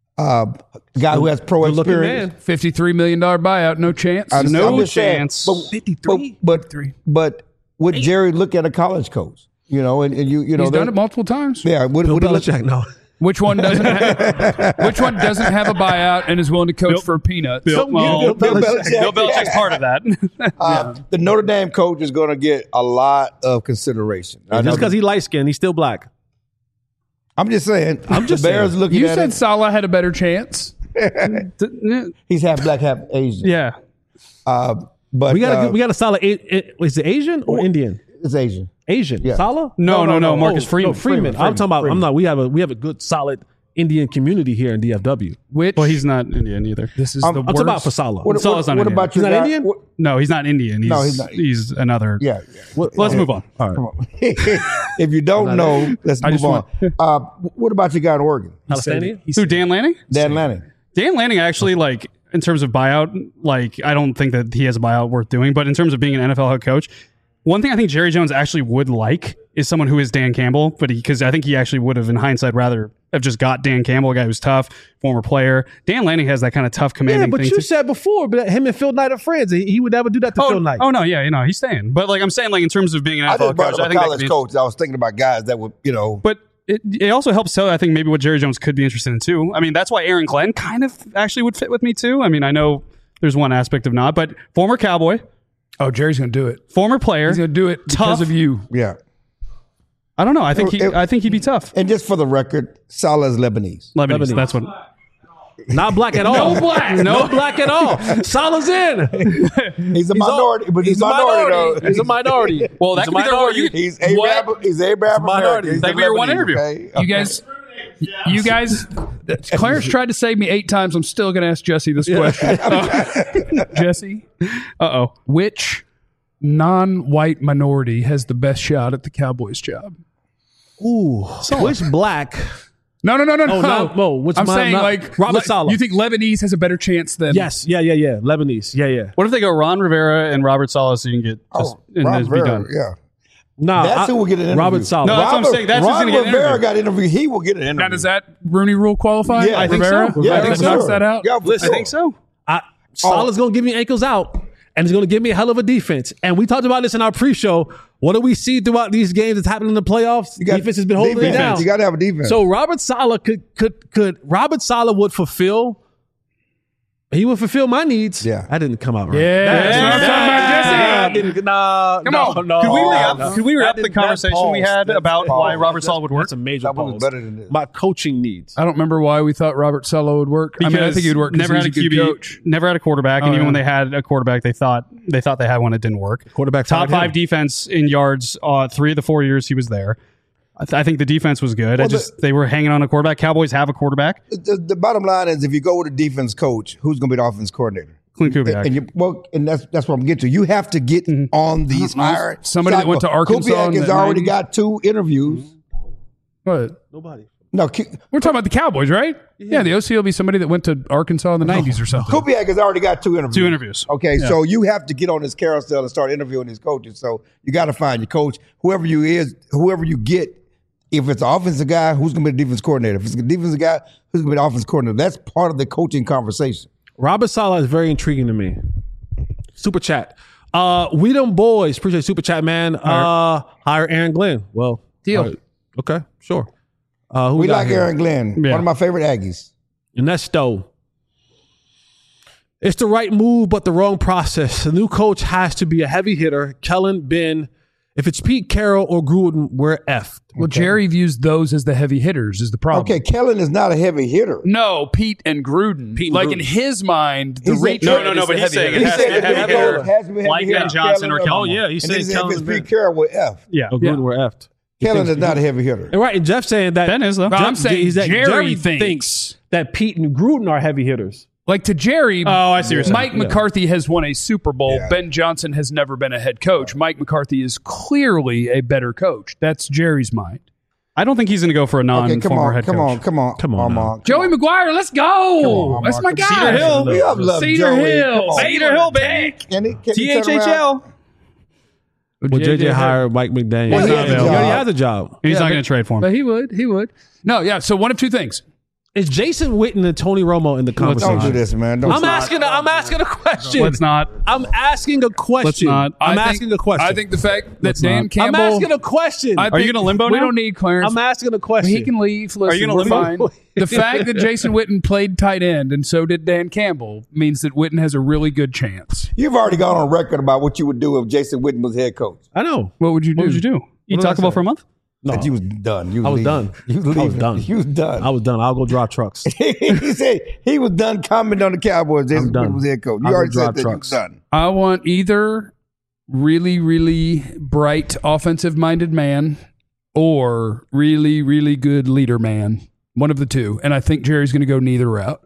Guy who has pro experience, $53 million buyout, no chance. No chance. But would Jerry look at a college coach? You know, and you know he's done it multiple times. Yeah, Bill Belichick, no. Which one doesn't have a buyout and is willing to coach for peanuts? Bill Belichick's part of that. The Notre Dame coach is going to get a lot of consideration. Just because he's light skinned, he's still black. I'm just saying. The Bears looking You at said it. Salah had a better chance. He's half black, half Asian. Yeah. But We got a solid. Is it Asian or Indian? It's Asian. Asian. Yeah. Salah? No, Marcus Freeman. No, Freeman. I'm talking about. I'm not. We have a good solid Indian community here in DFW. Which Well, he's not Indian either. this is I'm the I'm worst. talking about for Salah. Salah's not what Indian. about He's your not guy? Indian? No, he's not Indian. He's, No, he's not. He's another. Yeah. Let's move on. All right. Come on. If you don't know, let's move on. What about your guy in Oregon? Palestinian? Who, Dan Lanning? Dan Lanning. Dan Lanning actually, like, in terms of buyout, like, I don't think that he has a buyout worth doing. But in terms of being an NFL head coach, one thing I think Jerry Jones actually would like is someone who is Dan Campbell, but because I think he actually would have, in hindsight, rather have just got Dan Campbell, a guy who's tough, former player. Dan Lanning has that kind of tough, commanding Yeah, but thing. you said before, but him and Phil Knight are friends. He would never do that to Phil Knight. Oh, no, yeah, he's staying. But, like, I'm saying, like, in terms of being an I NFL just brought coach, up I a think that could college be- coach. I was thinking about guys that would, But it also helps tell, I think, maybe what Jerry Jones could be interested in, too. I mean, that's why Aaron Glenn kind of actually would fit with me, too. I mean, I know there's one aspect of not, but former Cowboy, Oh, Jerry's going to do it. former player. He's going to do it because Tough. of you. yeah. I don't know. I think he'd be tough. And just for the record, Salah is Lebanese. Lebanese. That's what. Not black at all. No black. No black at all. Salah's in. He's a minority, but he's a minority though. He's a minority. Well, that He's could be their word. He's Arab. He's Arab minority. American. That could be your one interview. You guys, Clarence tried to save me 8 times. I'm still going to ask Jesse this question. Jesse, which non-white minority has the best shot at the Cowboys job? Ooh. Which black? No. Which I'm saying, like, Robert Saleh. You think Lebanese has a better chance than? Yes. Yeah. Lebanese. Yeah. What if they go Ron Rivera and Robert Saleh so you can get just and Ron just be Rivera, done? yeah. Nah, That's who will get an interview. Robert Saleh. No, that's what I'm saying. That's who's Ron going to get an Rivera interview. got interviewed. He will get an interview. Now, does that Rooney Rule qualify? Yeah, I think Rivera? so. Yeah, I think for knocks sure. that out. Yeah, for I sure. think so. Salah's going to give me ankles out, and he's going to give me a hell of a defense. And we talked about this in our pre-show. What do we see throughout these games that's happening in the playoffs? Defense has been holding it down. You got to have a defense. So Robert Saleh could Robert Saleh would fulfill. He would fulfill my needs. Yeah. That didn't come out right. Yeah, that's what I'm talking about, Jesse. Could we wrap the conversation we had about why Robert Saleh would work? That's a major That was pause. better than this. My coaching needs. I don't remember why we thought Robert Saleh would work. I think he would work. Never had a good QB, coach. never had a quarterback, and Oh, even yeah. when they had a quarterback, they thought they had one that didn't work. Quarterback top fired 5 him. defense in yards 3 of the 4 years he was there. I think the defense was good. They were hanging on a quarterback. Cowboys have a quarterback. The bottom line is, if you go with a defense coach, who's going to be the offense coordinator? Clint Kubiak. And that's what I'm getting to. You have to get on these hiring. Somebody that went to Arkansas Kubiak in has the already 90s. got 2 interviews. What? Nobody. No, We're talking about the Cowboys, right? Yeah, the OC will be somebody that went to Arkansas in the 90s or something. Kubiak has already got 2 interviews. 2 interviews. Okay, so you have to get on this carousel and start interviewing these coaches. So you got to find your coach, whoever you get. If it's an offensive guy, who's going to be the defense coordinator? If it's a defensive guy, who's going to be the offense coordinator? That's part of the coaching conversation. Robert Saleh is very intriguing to me. Super chat. We them boys. Appreciate super chat, man. Hire Aaron Glenn. Well, Deal. Okay, sure. Who We got like here? Aaron Glenn, Yeah. one of my favorite Aggies. Ernesto. It's the right move, but the wrong process. The new coach has to be a heavy hitter. Kellen, Ben. If it's Pete Carroll or Gruden, we're effed. Well, Jerry views those as the heavy hitters is the problem. Okay, Kellen is not a heavy hitter. No, Pete and Gruden. Pete and like Gruden. in his mind, the He said- reach. No, but he's saying it He has said to the have new a coach hitter has to be a heavy like hitter. Ben Johnson or Kellen Kellen. Oh, yeah. He And said then he said, if it's Kellen. Pete Carroll, we're F. Yeah. Oh, Gruden, we're effed. Kellen is not a heavy hitter. And right, and Jeff saying that. Ben is, though. No, I'm saying is that Jerry thinks. that Pete and Gruden are heavy hitters. Like to Jerry, I see what you're saying. Mike McCarthy has won a Super Bowl. Yeah. Ben Johnson has never been a head coach. Mike McCarthy is clearly a better coach. That's Jerry's mind. I don't think he's going to go for a Okay, come non-former on, head come coach. on, come on, Come on now. Mark. Joey McGuire, let's go. on, That's my Mark. guy. Cedar Hill. We all love Cedar Joey. Hill. Come on. Cedar Hill, baby. Can he turn around? THHL. Well, JJ hired Mike McDaniel. Well, he He has a already job. has a job. He's Yeah, not but- going to trade for him. But he would. No, yeah. So one of 2 things. Is Jason Witten and Tony Romo in the conversation? Don't do this, man. I'm asking a question. Let's not. I'm asking a question. Let's not. I'm asking a question. I think the fact that Dan I'm Campbell. asking a question. Are you going to limbo We now? don't need Clarence. I'm asking a question. He can leave. Listen, Are you we're gonna limbo? fine. The fact that Jason Witten played tight end and so did Dan Campbell means that Witten has a really good chance. You've already gone on record about what you would do if Jason Witten was head coach. I know. What would you do? What would you do? Eat Taco Bell for a month? No. That you was done. I was done. You was I was leaving. done. You was done. I was done. I'll go drive trucks. He said he was done commenting on the Cowboys. Jason Witten was head coach. You I'll already go said drive that you trucks. was done. I want either really, really bright offensive-minded man or really, really good leader man. One of the two. And I think Jerry's going to go neither route.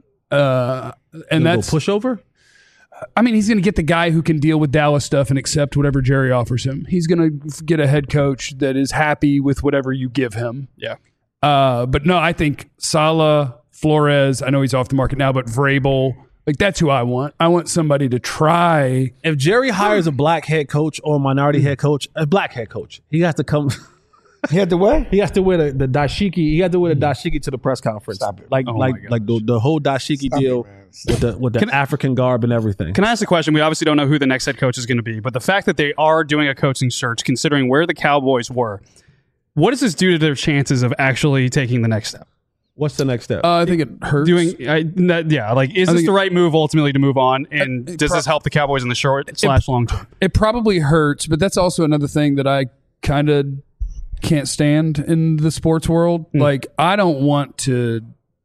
And that's pushover? I mean, he's going to get the guy who can deal with Dallas stuff and accept whatever Jerry offers him. He's going to get a head coach that is happy with whatever you give him. Yeah. But no, I think Saleh, Flores, I know he's off the market now, but Vrabel, like that's who I want. I want somebody to try. If Jerry hires a black head coach or a minority head coach, a black head coach, he has to come. He had to what? He has to wear the dashiki. He had to wear the dashiki to the press conference. Stop it. Like Oh like my like the whole dashiki deal with the African garb and everything. Can I ask a question? We obviously don't know who the next head coach is going to be, but the fact that they are doing a coaching search, considering where the Cowboys were, what does this do to their chances of actually taking the next step? What's the next step? I think it hurts. Is this the right move ultimately to move on? And does this help the Cowboys in the short/long term? It probably hurts, but that's also another thing that I kind of can't stand in the sports world. Like, I don't want to,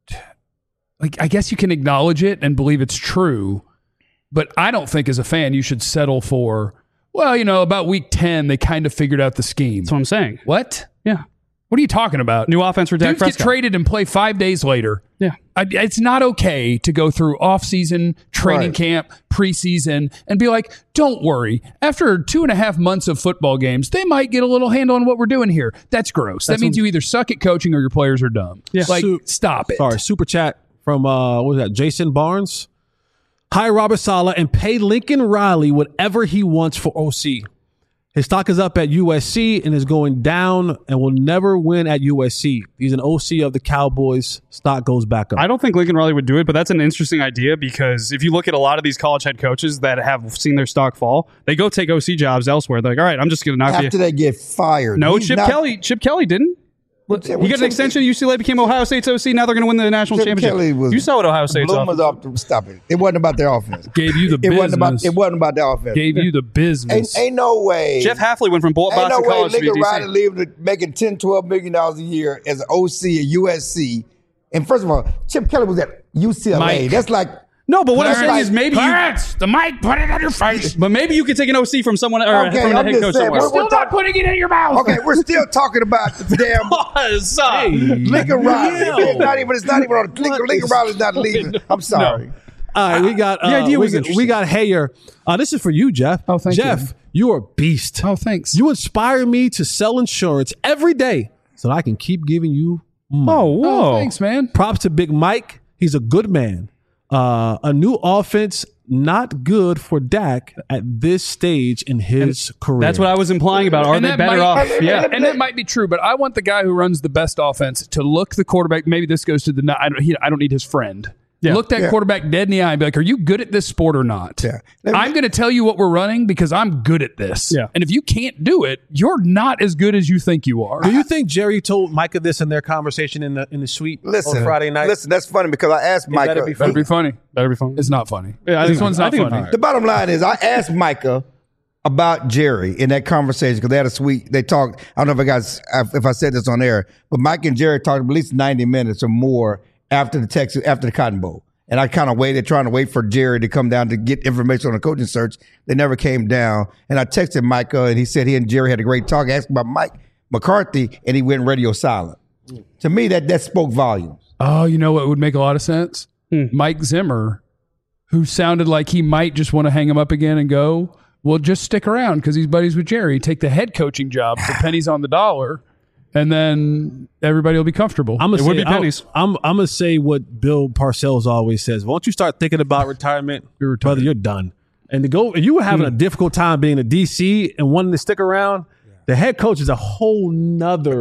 like, I guess you can acknowledge it and believe it's true, but I don't think as a fan you should settle for, well, you know, about week 10, they kind of figured out the scheme. That's what I'm saying. What? Yeah. What are you talking about? New offense for Dak Dudes Prescott. get traded and play 5 days later. Yeah. It's not okay to go through off-season, training camp, preseason, and be like, don't worry. After 2.5 months of football games, they might get a little handle on what we're doing here. That's gross. That means you either suck at coaching or your players are dumb. Yeah. Like, stop it. Sorry, super chat from what was that? Jason Barnes. Hire Robert Saleh and pay Lincoln Riley whatever he wants for OC. His stock is up at USC and is going down and will never win at USC. He's an OC of the Cowboys. Stock goes back up. I don't think Lincoln Riley would do it, but that's an interesting idea because if you look at a lot of these college head coaches that have seen their stock fall, they go take OC jobs elsewhere. They're like, all right, I'm just going to knock you. After they get fired. No, Chip Chip Kelly didn't. He got an extension. UCLA became Ohio State's OC. Now they're going to win the national championship. You saw what Ohio State's offense. Stop it. It wasn't about their offense. Gave you the It business. wasn't about their offense. Gave you the business. Ain't no way. Jeff Hafley went from Boston Ain't no way College to Lincoln DC. Riley leaving making $10, $12 million a year as an OC at USC. And first of all, Chip Kelly was at UCLA. Mike. That's like No, but what I'm saying is maybe the mic, put it on your face. but maybe you could take an OC from someone or Okay, from a I'm head just coach saying, somewhere. we're Still not putting it in your mouth. okay. We're still talking about the damn Lincoln Riley. It's not even on Lincoln Riley's not leaving. I'm sorry. All right, we got The idea was we interesting. got Hayer. This is for you, Jeff. Oh, thank Jeff, you are a beast. Oh, thanks. You inspire me to sell insurance every day so that I can keep giving you money. Oh, thanks, man. Props to Big Mike. He's a good man. A new offense, not good for Dak at this stage in his career. That's what I was implying about. Are And they that better might- off? Yeah. And that might be true, but I want the guy who runs the best offense to look the quarterback. Maybe this goes to the. I don't need his friend. Yeah. Look that quarterback dead in the eye and be like, "Are you good at this sport or not?" Yeah. I'm going to tell you what we're running because I'm good at this. Yeah. And if you can't do it, you're not as good as you think you are. Do you think Jerry told Micah this in their conversation in the suite Listen, on Friday night? Listen, that's funny because I asked Micah. better be Better be funny. Better be fun. It's not funny. Yeah, I this think- one's I not think- funny. The bottom line is, I asked Micah about Jerry in that conversation because they had a suite. They talked. I don't know if I said this on air, but Mike and Jerry talked at least 90 minutes or more after the Cotton Bowl. And I kind of waited, trying to wait for Jerry to come down to get information on the coaching search. They never came down. And I texted Micah, and he said he and Jerry had a great talk. I asked about Mike McCarthy, and he went radio silent. To me, that spoke volumes. Oh, you know what would make a lot of sense? Mike Zimmer, who sounded like he might just want to hang him up again and go, well, just stick around because he's buddies with Jerry. Take the head coaching job for pennies on the dollar, and then everybody will be comfortable. I'm It would be pennies. I'm gonna say what Bill Parcells always says. Once you start thinking about retirement, brother, you're done. And to go, if you were having a difficult time being a DC and wanting to stick around, the head coach is a whole nother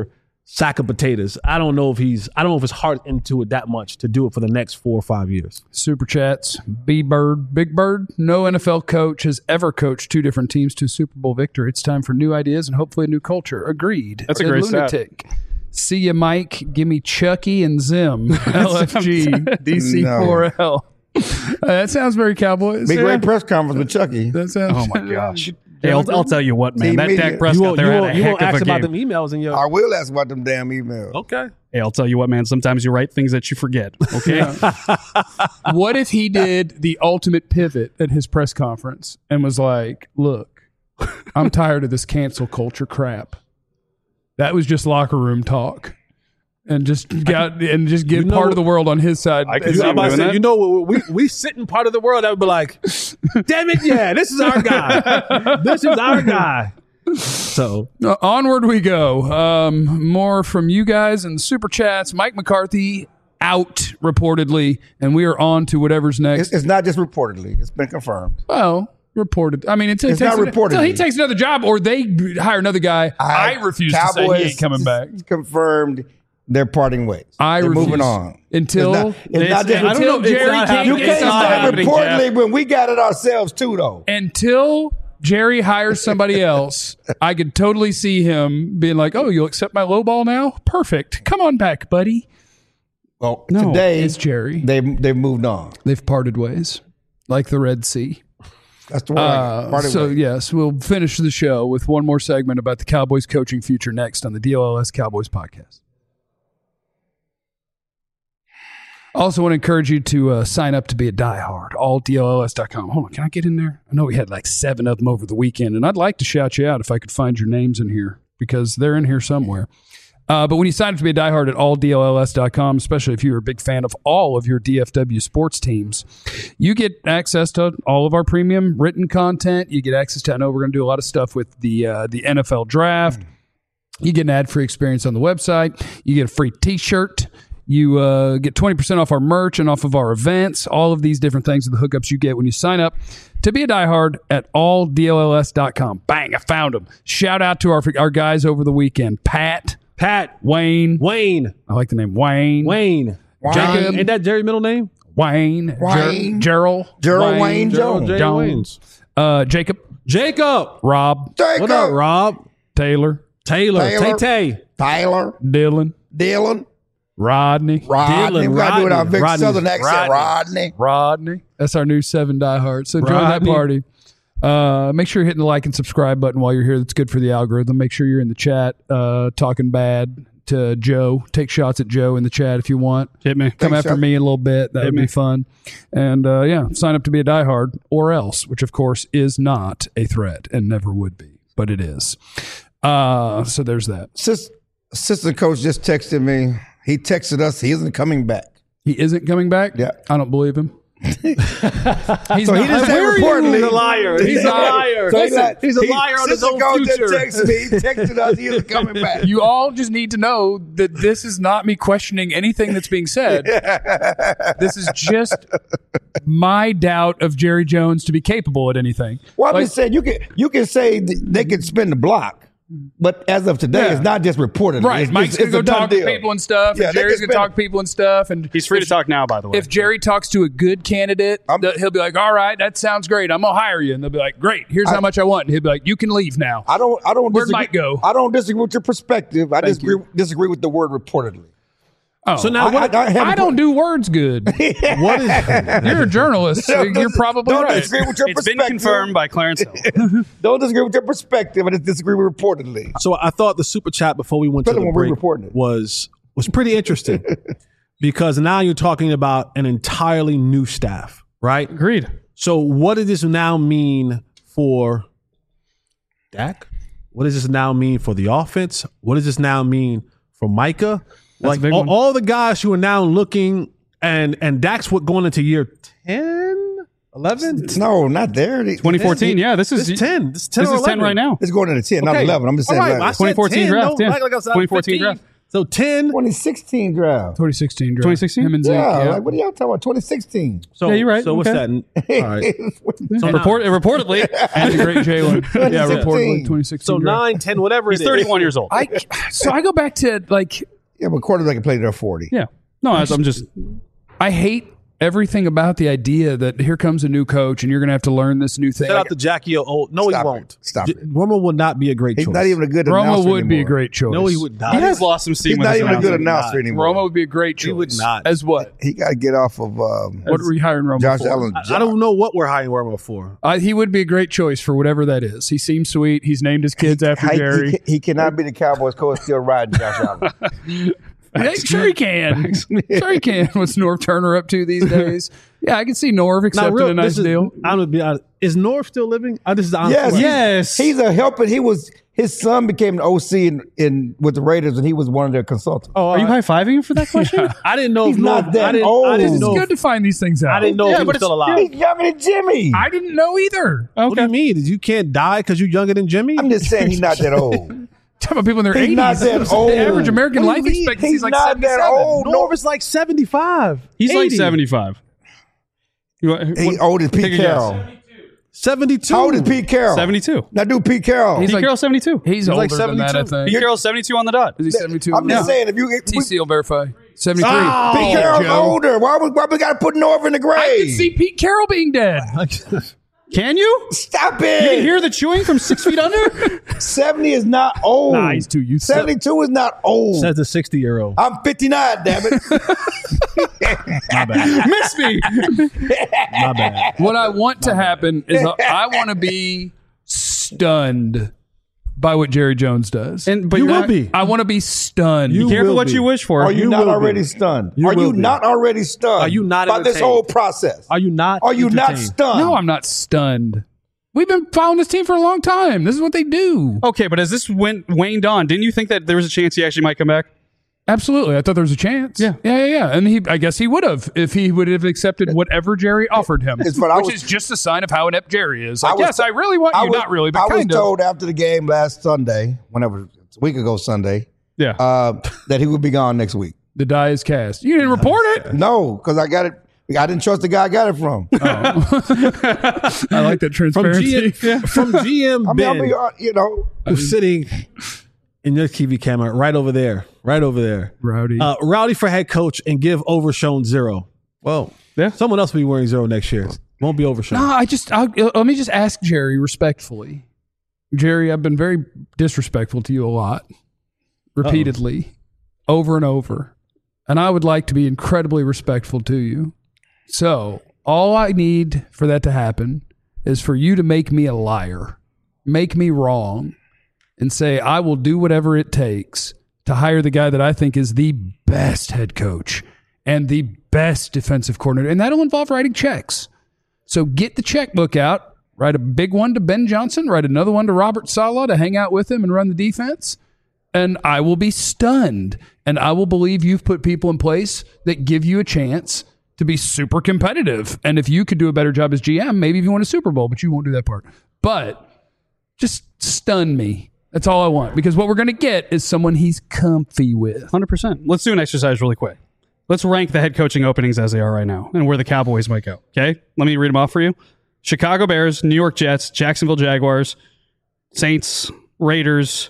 sack of potatoes. I don't know if his heart into it that much to do it for the next 4 or 5 years. Super chats. Big Bird. No NFL coach has ever coached 2 different teams to a Super Bowl victory. It's time for new ideas and hopefully a new culture. Agreed. That's a great lunatic. See ya, Mike. Give me Chucky and Zim. LFG. DC4L. That sounds very Cowboys. Big great press conference with Chucky. That sounds. Oh my gosh. Hey, I'll tell you what, man. That Dak Prescott there had a heck of a ask about game. them emails in your. I will ask about them damn emails. Okay. Hey, I'll tell you what, man. Sometimes you write things that you forget. Okay. What if he did the ultimate pivot at his press conference and was like, "Look, I'm tired of this cancel culture crap." That was just locker room talk. And just get part of the world on his side. We sit in part of the world that would be like, damn it, yeah, this is our guy. This is our guy. So onward we go. More from you guys and super chats. Mike McCarthy out reportedly, and we are on to whatever's next. It's not just reportedly; it's been confirmed. Well, reported. I mean, it's not reported. Until he takes another job or they hire another guy. I refuse to say he ain't coming back. Confirmed. They're parting ways. They're moving on. Until Jerry King. You can't say reportedly when we got it ourselves too, though. Until Jerry hires somebody else, I could totally see him being like, "Oh, you'll accept my low ball now? Perfect. Come on back, buddy." Well, no, today it's Jerry. They've moved on. They've parted ways, like the Red Sea. That's the word. So yes, we'll finish the show with one more segment about the Cowboys coaching future next on the DLLS Cowboys podcast. Also want to encourage you to sign up to be a diehard, alldlls.com. Hold on, can I get in there? I know we had like 7 of them over the weekend, and I'd like to shout you out if I could find your names in here because they're in here somewhere. But when you sign up to be a diehard at alldlls.com, especially if you're a big fan of all of your DFW sports teams, you get access to all of our premium written content. You get access to, I know we're going to do a lot of stuff with the NFL draft. You get an ad-free experience on the website. You get a free T-shirt. You get 20% off our merch and off of our events. All of these different things are the hookups you get when you sign up to be a diehard at alldlls.com. Bang, I found them. Shout out to our guys over the weekend. Pat, Wayne. I like the name Wayne. Jacob. Ain't that Jerry's middle name? Wayne. Gerald Wayne Jones. Jacob. Rob. What up, Rob? Taylor. Tay. Tyler. Dylan. Rodney. We got to do it our big Southern accent. Rodney. That's our new 7 diehards. So join that party. Make sure you're hitting the like and subscribe button while you're here. That's good for the algorithm. Make sure you're in the chat talking bad to Joe. Take shots at Joe in the chat if you want. Hit me. Come after me a little bit. That would be fun. And sign up to be a diehard or else, which of course is not a threat and never would be, but it is. So there's that. Assistant coach just texted me. He texted us. He isn't coming back. He isn't coming back? Yeah. I don't believe him. He didn't say reportedly. He's a liar. He's a liar. He's a liar on his own future. He texted us. He isn't coming back. You all just need to know that this is not me questioning anything that's being said. This is just my doubt of Jerry Jones to be capable at anything. Well, I'm just saying, you can say they can spin the block. But as of today, it's not just reported. Right. Mike's going to go talk to people and stuff. And Jerry's going to talk to people and stuff. And he's free to talk now, by the way. If Jerry talks to a good candidate, he'll be like, all right, that sounds great. I'm going to hire you. And they'll be like, great. Here's how much I want. And he'll be like, you can leave now. Where'd Mike go? I don't disagree with your perspective. I disagree with the word reportedly. Oh, so now I don't do words good. What is? You're a journalist. So you're probably right. Disagree with your it's been confirmed by Clarence Hill. Don't disagree with your perspective. I just disagree with reportedly. So I thought the super chat before we went to the break was pretty interesting because now you're talking about an entirely new staff, right? Agreed. So what does this now mean for Dak? What does this now mean for the offense? What does this now mean for Micah? That's like all the guys who are now looking and Dak's going into year 10, 11? No, not there. 2014. This is 10. This is 10 right now. It's going into 10, not 11. I'm just saying. Right, 2014 draft. 2014 draft. So 10. 2016 draft. 2016 draft. 2016? Him and Zeke. Yeah, Yeah. like what are y'all talking about? 2016. So, Yeah, you're right. So what's Okay. that? All right. So reportedly, And the great Jalen. Yeah, 2016. reportedly 2016 So draft. 9, 10, whatever he's it is. 31 years old. So I go back to like, Yeah, but quarterback can play there 40. Yeah. No, I'm just. I hate everything about the idea that here comes a new coach and you're going to have to learn this new thing. Shout out to Jackie O. No, Stop he it. won't. Stop it. Romo would not be a great He's choice. not even a good Romo announcer would be a anymore. great choice. No, he would not. He has lost some steam He's with not his even a good announcing. announcer anymore. Romo would be a great choice. He would not. As what? He got to get off of What are we hiring Romo Josh for? Allen. I don't know what we're hiring Romo for. He would be a great choice for whatever that is. He seems sweet. He's named his kids after Jerry. He cannot be the Cowboys coach still riding Josh Allen. Yeah, sure he can. Sure he can. What's Norv Turner up to these days? Yeah, I can see Norv accepting a nice deal. I'm gonna be honest. Is Norv still living? This is the honest Yes, question. Yes. He's a helper. His son became an OC in with the Raiders, and he was one of their consultants. Oh, Are you high fiving him for that question? I didn't know He's if not Norv, that I didn't, old. I didn't It's know. good to find these things out. I didn't know if he was still alive. He's younger than Jimmy. I didn't know either. What do you mean? You can't die because you're younger than Jimmy? I'm just saying he's not that old. Talking about people in their He's 80s. not that old. The average American What do life you mean? expectancy He's is like not that 77. old. Norv is like 75. He's like 80. 75. He's old as Pete Take a Carroll. 72. How old is Pete Carroll? 72. Now do Pete Carroll. He's Pete like- Carroll's 72. He's older like than that, I 72. think. Pete Carroll's 72 on the dot. Is he 72? I'm just saying, if TC will verify. 73. Pete Carroll's Joe. older. Why we got to put Norv in the grave? I can see Pete Carroll being dead. Can you? Stop You can it. hear the chewing from 6 feet under? 70 is not old. Nah, he's too used to it. 72 is not old. Says the 60-year-old. I'm 59, damn it. My bad. Miss me. My bad. What I want to happen is I want to be stunned by what Jerry Jones does. But You you're will not- be. I want to be stunned. You Careful will what be. you wish for. Are you You not will already be. stunned? You Are will you be. not already stunned? Are you not by this entertained? whole process? Are you not? Are you not entertained? stunned? No, I'm not stunned. We've been following this team for a long time. This is what they do. Okay, but as this waned on, didn't you think that there was a chance he actually might come back? Absolutely. I thought there was a chance. Yeah. Yeah. And I guess he would have if he would have accepted whatever Jerry offered him, It's what I which was- is just a sign of how inept Jerry is. Like, I was- yes, I really want you. Not really, but I was kind of. told after the game last Sunday, whenever it's a week ago Sunday, Yeah. that he would be gone next week. The die is cast. You didn't report it. No, because I got it. I didn't trust the guy I got it from. I like that From transparency. GM I mean, Ben, who's sitting in your TV camera right over there. Rowdy. Rowdy for head coach and give Overshown 0. Well, Yeah. someone else will be wearing 0 next year. Won't be Overshown. No, let me just ask Jerry respectfully. Jerry, I've been very disrespectful to you a lot, repeatedly, over and over. And I would like to be incredibly respectful to you. So all I need for that to happen is for you to make me a liar, make me wrong, and say, I will do whatever it takes to hire the guy that I think is the best head coach and the best defensive coordinator. And that'll involve writing checks. So get the checkbook out, write a big one to Ben Johnson, write another one to Robert Saleh to hang out with him and run the defense. And I will be stunned. And I will believe you've put people in place that give you a chance to be super competitive. And if you could do a better job as GM, maybe if you win a Super Bowl, but you won't do that part. But just stun me. That's all I want. Because what we're going to get is someone he's comfy with. 100%. Let's do an exercise really quick. Let's rank the head coaching openings as they are right now and where the Cowboys might go. Okay? Let me read them off for you. Chicago Bears, New York Jets, Jacksonville Jaguars, Saints, Raiders,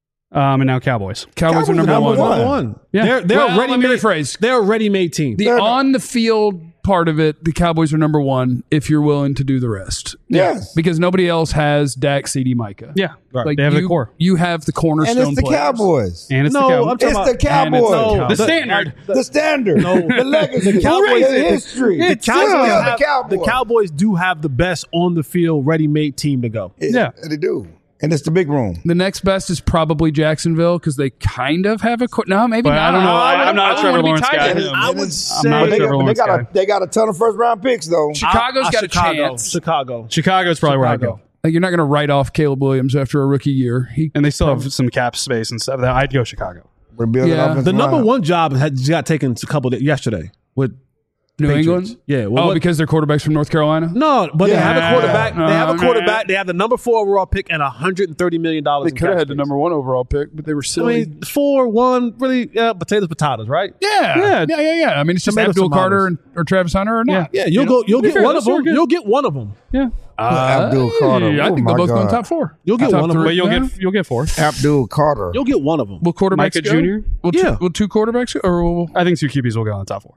and now Cowboys. Cowboys are number one. Yeah. They're Well, ready let me made. rephrase. They're a ready-made team. The on the field part of it, the Cowboys are number one if you're willing to do the rest. Yes. Because nobody else has Dak, CD, Micah. Yeah. Like They have you, the core. You have the cornerstone And it's the players. Cowboys. And it's No, the Cowboys. I'm talking It's about the Cowboys. The standard. The standard. The legacy. The Cowboys- The history. The Cowboys, Yeah, have- the Cowboys. the Cowboys do have the best on the field, ready-made team to go. Yeah. They do. And it's the big room. The next best is probably Jacksonville because they kind of have a no, maybe But not. I don't know. I'm not a I Trevor wouldn't be Lawrence tied guy. to him. I would not say a Trevor They Lawrence guy. got a ton of first round picks though. Chicago's got Chicago, a chance. Chicago. Chicago's probably where I go. Like, you're not going to write off Caleb Williams after a rookie year. And they still have some cap space and stuff. I'd go Chicago. We're building Yeah. offensive The number line. one job got taken a couple yesterday with New England? Yeah. Because they're quarterbacks from North Carolina? No, but they have a quarterback. They have a quarterback. They have the number 4 overall pick and $130 million. They could have had the number 1 overall pick, but they were silly. I mean, 4-1, really, potatoes, right? Yeah. I mean, it's just Abdul Carter or Travis Hunter or not. Yeah, you'll get one of them. You'll get one of them. Yeah. Abdul Carter. I think they'll both go in top 4. You'll get one of them. But you'll get 4. Abdul Carter. You'll get one of them. Will quarterbacks Micah go? Jr.? Will 2 quarterbacks go? Or I think 2 QBs will go in the top 4.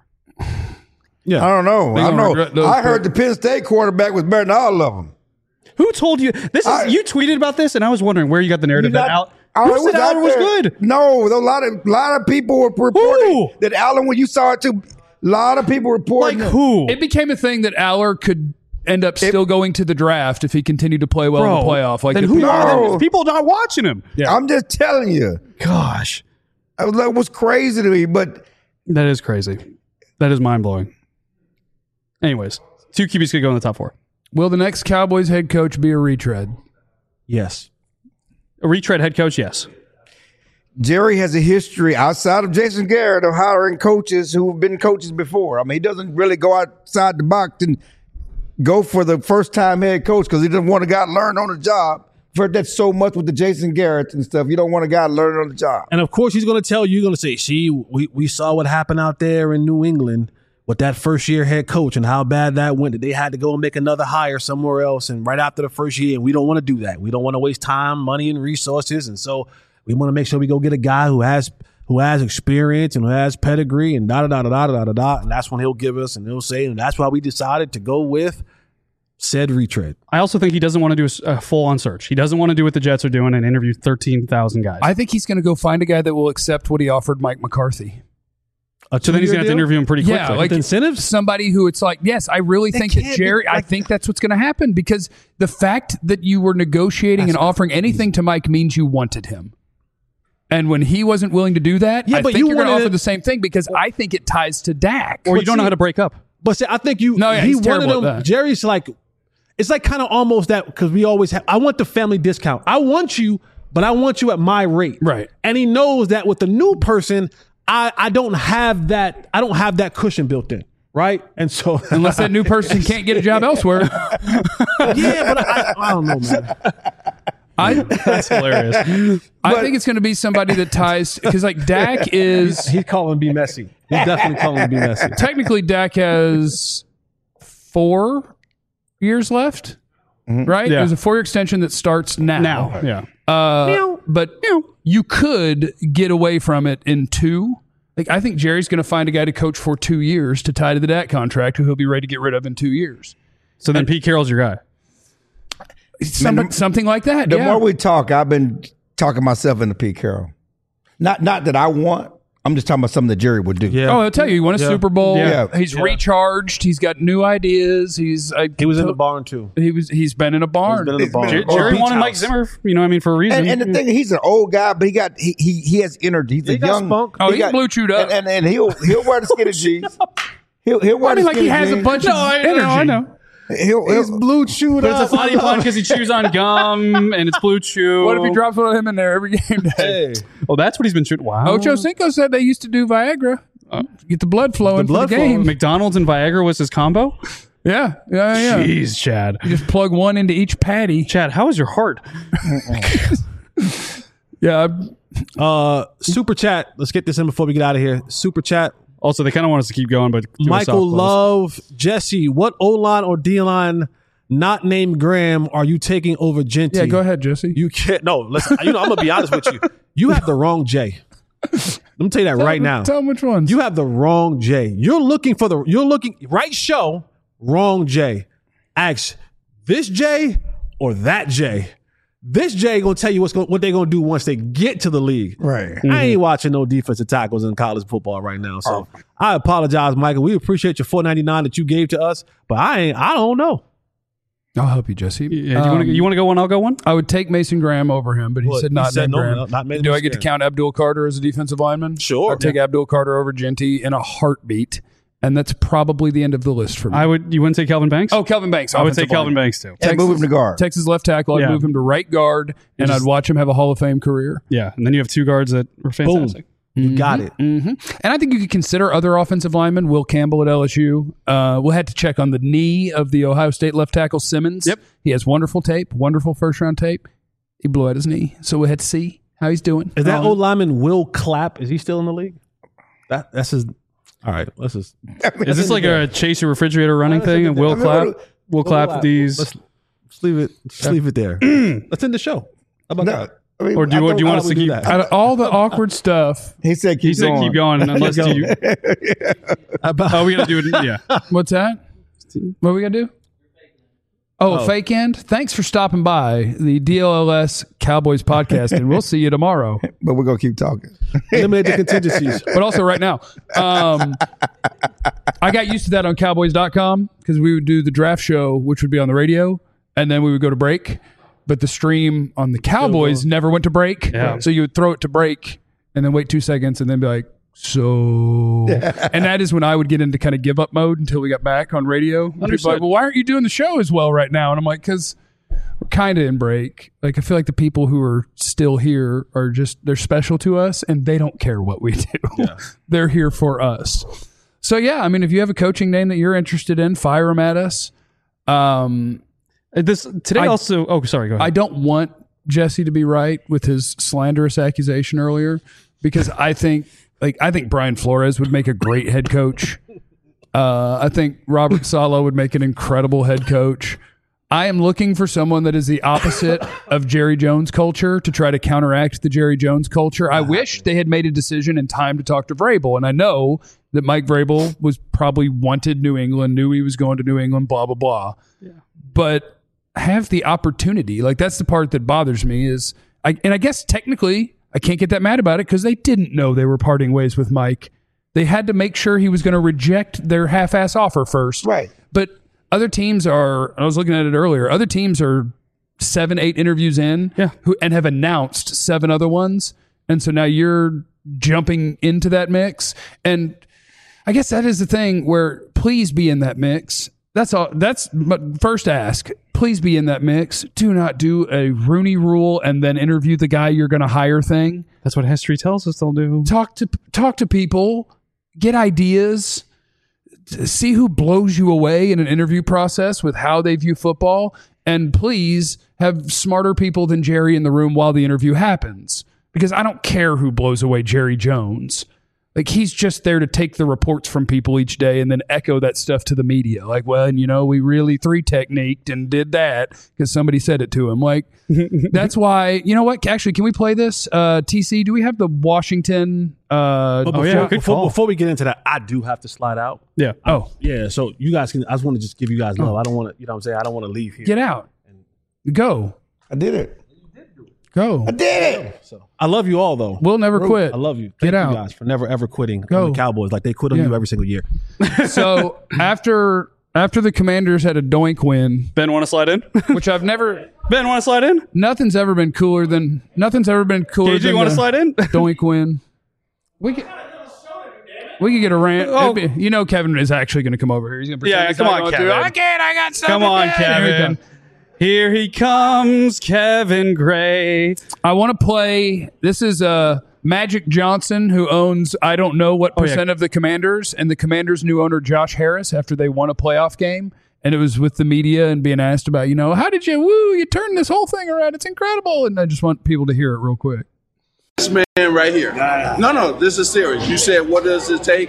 Yeah. I don't know. I heard the Penn State quarterback was better than all of them. Who told you this? You tweeted about this, and I was wondering where you got the narrative that Who said Allen was good? No, a lot of people were reporting that Allen. When you saw it too, a lot of people reporting. Like who? It became a thing that Aller could end up still going to the draft if he continued to play well in the playoff. Like then who are people not watching him? Yeah. I'm just telling you. Gosh, that was crazy to me. But that is crazy. That is mind blowing. Anyways, 2 QBs could go in the top 4. Will the next Cowboys head coach be a retread? Yes. A retread head coach, yes. Jerry has a history outside of Jason Garrett of hiring coaches who have been coaches before. I mean, he doesn't really go outside the box and go for the first-time head coach because he doesn't want a guy to learn on the job. I've heard that so much with the Jason Garrett and stuff. You don't want a guy to learn on the job. And, of course, he's going to tell you, see, we saw what happened out there in New England with that first-year head coach and how bad that went, that they had to go and make another hire somewhere else and right after the first year, and we don't want to do that. We don't want to waste time, money, and resources, and so we want to make sure we go get a guy who has experience and who has pedigree and da-da-da-da-da-da-da-da, and that's when he'll give us, and he'll say, and that's why we decided to go with said retread. I also think he doesn't want to do a full-on search. He doesn't want to do what the Jets are doing and interview 13,000 guys. I think he's going to go find a guy that will accept what he offered Mike McCarthy. So then he's going to have to interview him pretty quickly. Yeah, like incentives? Somebody who it's like, yes, I really think that Jerry, I think that's what's going to happen because the fact that you were negotiating and offering anything to Mike means you wanted him. And when he wasn't willing to do that, I think you're going to offer the same thing because I think it ties to Dak. Or you don't know how to break up. But see, I think he wanted him. Jerry's like, it's like kind of almost that because we always have, I want the family discount. I want you, but I want you at my rate. Right. And he knows that with the new person, I don't have that. I don't have that cushion built in, right? And so unless that new person can't get a job elsewhere, yeah. But I don't know, man. That's hilarious. I think it's going to be somebody that ties because like Dak is. He's calling B messy. He's definitely calling B messy. Technically, Dak has 4 years left, right? Yeah. There's a 4-year extension that starts now. Yeah. But you could get away from it in 2. Like I think Jerry's going to find a guy to coach for 2 years to tie to the Dak contract who he'll be ready to get rid of in 2 years. So then Pete Carroll's your guy. Something like that. The more we talk, I've been talking myself into Pete Carroll. Not that I want. I'm just talking about something that Jerry would do. Yeah. Oh, I'll tell you, he won a Super Bowl. Yeah. He's recharged. He's got new ideas. He was in the barn too. He's been in a barn. Jerry wanted Mike Zimmer, for a reason. And the thing, he's an old guy, but he has energy. He's a young spunk. Oh, he's blue chewed up, and he'll wear the skinny jeans. He'll wear the skinny jeans. He has a bunch of energy. I know. He's blue chewed but up. It's a funny pun because he chews on gum and it's blue chew. What if he drops one of him in there every game day? Hey. Oh, that's what he's been shooting. Wow. Ocho Cinco said they used to do Viagra. Get the blood flowing for the game. McDonald's and Viagra was his combo? Yeah. Jeez, Chad. You just plug one into each patty. Chad, how is your heart? Yeah. Super chat. Let's get this in before we get out of here. Super chat. Also, they kind of want us to keep going, but Michael Love, Jesse, what O-line or D-line not named Graham are you taking over Genty? Yeah, go ahead, Jesse. You can't. No, listen. I'm gonna be honest with you. You have the wrong J. Let me tell you that right now. Tell them which ones. You have the wrong J. You're looking right show, wrong J. Ask this J or that J. This J gonna tell you what they're gonna do once they get to the league. Right. Mm-hmm. I ain't watching no defensive tackles in college football right now. So I apologize, Michael. We appreciate your $4.99 that you gave to us, but I don't know. I'll help you, Jesse. Yeah, you want to go one? I'll go one. I would take Mason Graham over him, but he said not Graham. Not Mason Do I get to count Abdul Carter as a defensive lineman? Sure. I'd take Abdul Carter over Genty in a heartbeat, and that's probably the end of the list for me. You wouldn't take Kelvin Banks? Oh, Kelvin Banks. I would take Kelvin Banks too. And move him to guard. Texas left tackle. I'd move him to right guard, and I'd watch him have a Hall of Fame career. Yeah, and then you have 2 guards that were fantastic. You got it. Mm-hmm. And I think you could consider other offensive linemen. Will Campbell at LSU. We'll have to check on the knee of the Ohio State left tackle Simmons. Yep. He has wonderful tape, wonderful first-round tape. He blew out his knee, so we'll have to see how he's doing. Is that old lineman Will Clapp? Is he still in the league? That's his. All right, let's just. Is this like a chase your refrigerator running thing? And Will Clapp these. Let's leave it. Just leave it there. Let's end the show. How about that? I mean, Or do you want us to keep? Out of all the awkward stuff, He said keep going. Keep going unless you. Oh, we gotta do it. Yeah. what's that? What we gotta do? Oh, fake end. Thanks for stopping by the DLLS Cowboys podcast, and we'll see you tomorrow. But we're going to keep talking. Eliminate the contingencies. But also right now, I got used to that on Cowboys.com because we would do the draft show, which would be on the radio, and then we would go to break. But the stream on the Cowboys never went to break. Yeah. So you would throw it to break and then wait 2 seconds and then be like, so. And that is when I would get into kind of give up mode until we got back on radio. People are like, well, why aren't you doing the show as well right now? And I'm like, because we're kind of in break. Like, I feel like the people who are still here are just, they're special to us and they don't care what we do. Yeah. They're here for us. So, yeah, I mean, if you have a coaching name that you're interested in, fire them at us. Sorry, go ahead. I don't want Jesse to be right with his slanderous accusation earlier because I think Brian Flores would make a great head coach. I think Robert Saleh would make an incredible head coach. I am looking for someone that is the opposite of Jerry Jones culture to try to counteract the Jerry Jones culture. I wish they had made a decision in time to talk to Vrabel, and I know that Mike Vrabel was probably wanted New England, knew he was going to New England, blah, blah, blah. Yeah. But have the opportunity. Like, that's the part that bothers me is, I guess technically I can't get that mad about it because they didn't know they were parting ways with Mike. They had to make sure he was going to reject their half-ass offer first. Right. But other teams are, I was looking at it earlier, other teams are 7-8 interviews in and have announced 7 other ones. And so now you're jumping into that mix. And I guess that is the thing where please be in that mix. That's all. That's my first ask. Please be in that mix. Do not do a Rooney Rule and then interview the guy you're going to hire thing. That's what history tells us they'll do. Talk to people. Get ideas. See who blows you away in an interview process with how they view football. And please have smarter people than Jerry in the room while the interview happens. Because I don't care who blows away Jerry Jones. Like, he's just there to take the reports from people each day and then echo that stuff to the media. Like, well, and we really 3-techniqued and did that because somebody said it to him. Like, that's why, you know what? Actually, can we play this? TC, do we have the Washington? Before we get into that, I do have to slide out. Yeah. Yeah. So you guys can, I just want to just give you guys love. I don't want to, what I'm saying? I don't want to leave here. Get out. Go. I did it. Go. I did it. So I love you all, though. We'll never quit. I love you. Get Thank out. you guys for never, ever quitting on the Cowboys like they quit on you every single year. So after the Commanders had a doink win. Ben, want to slide in? Which I've never. Ben, want to slide in? Nothing's ever been cooler than. KG, than want to slide in? Doink win. We could get a rant. Kevin is actually going to come over here. He's going to pretend come on, Kevin. I got something. Come on, Kevin. Here he comes, Kevin Gray. I want to play. This is Magic Johnson, who owns I don't know what percent of the Commanders, and the Commanders' new owner, Josh Harris, after they won a playoff game. And it was with the media and being asked about, how did you turn this whole thing around? It's incredible. And I just want people to hear it real quick. This man right here. No, this is serious. You said, what does it take?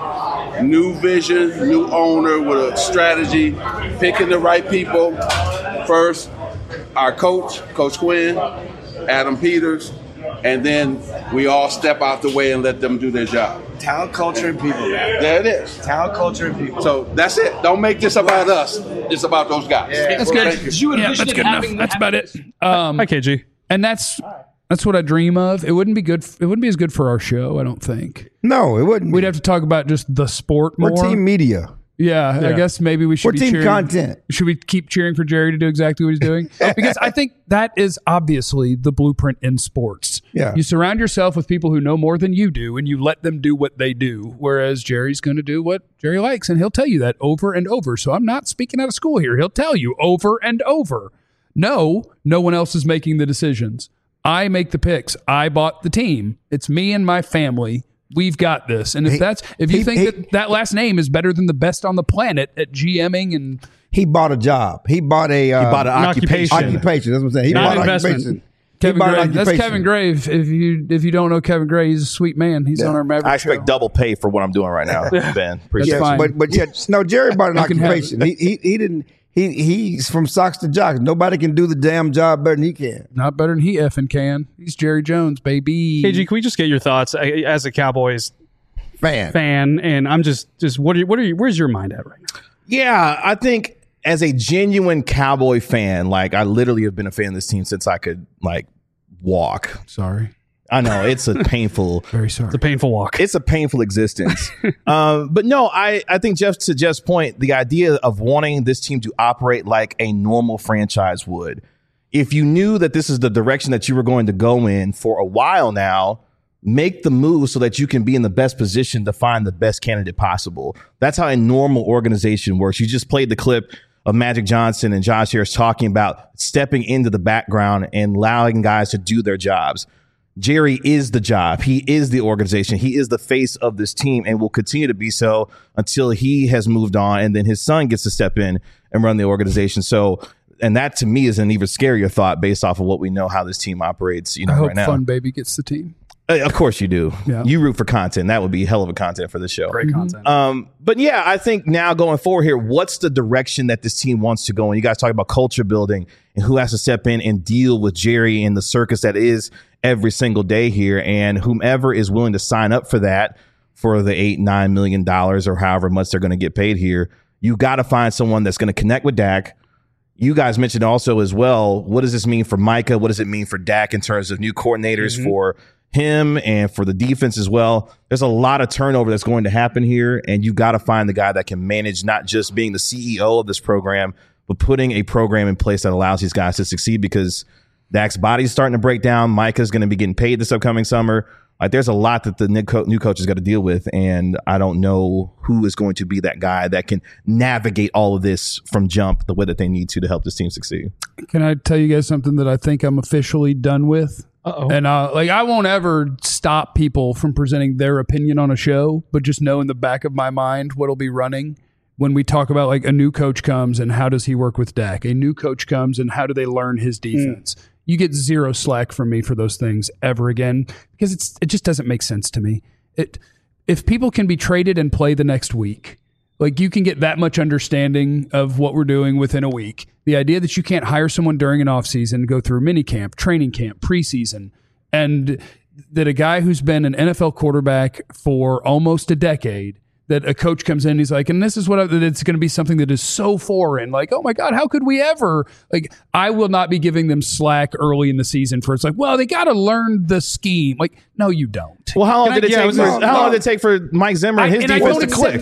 New vision, new owner with a strategy, picking the right people. First, our coach, Coach Quinn, Adam Peters, and then we all step out the way and let them do their job. Talent, culture, and people. There it is. Talent, culture, and people. So that's it. Don't make this about us. It's about those guys. Yeah. That's good. That's good enough. That's about it. Hi, KG. And that's what I dream of. It wouldn't be good. It wouldn't be as good for our show, I don't think. No, it wouldn't. We'd have to talk about just the sport more. We're team media. Yeah, I guess maybe we should be team cheering. Content. Should we keep cheering for Jerry to do exactly what he's doing? Because I think that is obviously the blueprint in sports. Yeah. You surround yourself with people who know more than you do, and you let them do what they do, whereas Jerry's going to do what Jerry likes, and he'll tell you that over and over. So I'm not speaking out of school here. He'll tell you over and over, no one else is making the decisions. I make the picks. I bought the team. It's me and my family. We've got this. And if you think that last name is better than the best on the planet at GMing, and he bought a job. He bought an occupation. Occupation. That's what I'm saying. He bought an occupation. Kevin Gray. That's Kevin Gray. If you don't know Kevin Gray, he's a sweet man. He's on our Maverick I expect double pay for what I'm doing right now, Ben. Appreciate it. But Jerry bought an occupation. He didn't. He's from socks to jocks. Nobody can do the damn job better than he can. Not better than he effing can. He's Jerry Jones, baby. KG, can we just get your thoughts as a Cowboys fan? And I'm just where's your mind at right now? Yeah, I think as a genuine Cowboy fan, like I literally have been a fan of this team since I could like walk. Sorry. I know it's a painful, very sorry. It's a painful walk. It's a painful existence. But no, I think to Jeff's point, the idea of wanting this team to operate like a normal franchise would, if you knew that this is the direction that you were going to go in for a while now, make the move so that you can be in the best position to find the best candidate possible. That's how a normal organization works. You just played the clip of Magic Johnson and Josh Harris talking about stepping into the background and allowing guys to do their jobs. Jerry is the job. He is the organization. He is the face of this team and will continue to be so until he has moved on. And then his son gets to step in and run the organization. So, and that to me is an even scarier thought based off of what we know how this team operates, I hope right now. Fun Baby gets the team. Of course you do. Yeah. You root for content. That would be hell of a content for the show. Great content. But yeah, I think now going forward here, what's the direction that this team wants to go? And you guys talk about culture building and who has to step in and deal with Jerry and the circus that is every single day here. And whomever is willing to sign up for that for the $8-9 million or however much they're going to get paid here, you got to find someone that's going to connect with Dak. You guys mentioned also as well, what does this mean for Micah? What does it mean for Dak in terms of new coordinators for him and for the defense as well? There's a lot of turnover that's going to happen here, and you got to find the guy that can manage not just being the CEO of this program, but putting a program in place that allows these guys to succeed, because Dak's body's starting to break down. Micah's going to be getting paid this upcoming summer. Like, there's a lot that the new coach has got to deal with, and I don't know who is going to be that guy that can navigate all of this from jump the way that they need to help this team succeed. Can I tell you guys something that I think I'm officially done with? Uh-oh. And I won't ever stop people from presenting their opinion on a show, but just know in the back of my mind what'll be running when we talk about like a new coach comes and how does he work with Dak? A new coach comes and how do they learn his defense? You get zero slack from me for those things ever again, because it just doesn't make sense to me. If people can be traded and play the next week, like you can get that much understanding of what we're doing within a week. The idea that you can't hire someone during an offseason, go through mini camp, training camp, preseason, and that a guy who's been an NFL quarterback for almost a decade, that a coach comes in, he's like, and this is what it's going to be something that is so foreign. Like, oh my God, how could we ever? Like, I will not be giving them slack early in the season for it's like, well, they got to learn the scheme. Like, no, you don't. Well, how long did it take for Mike Zimmer and his defense to click?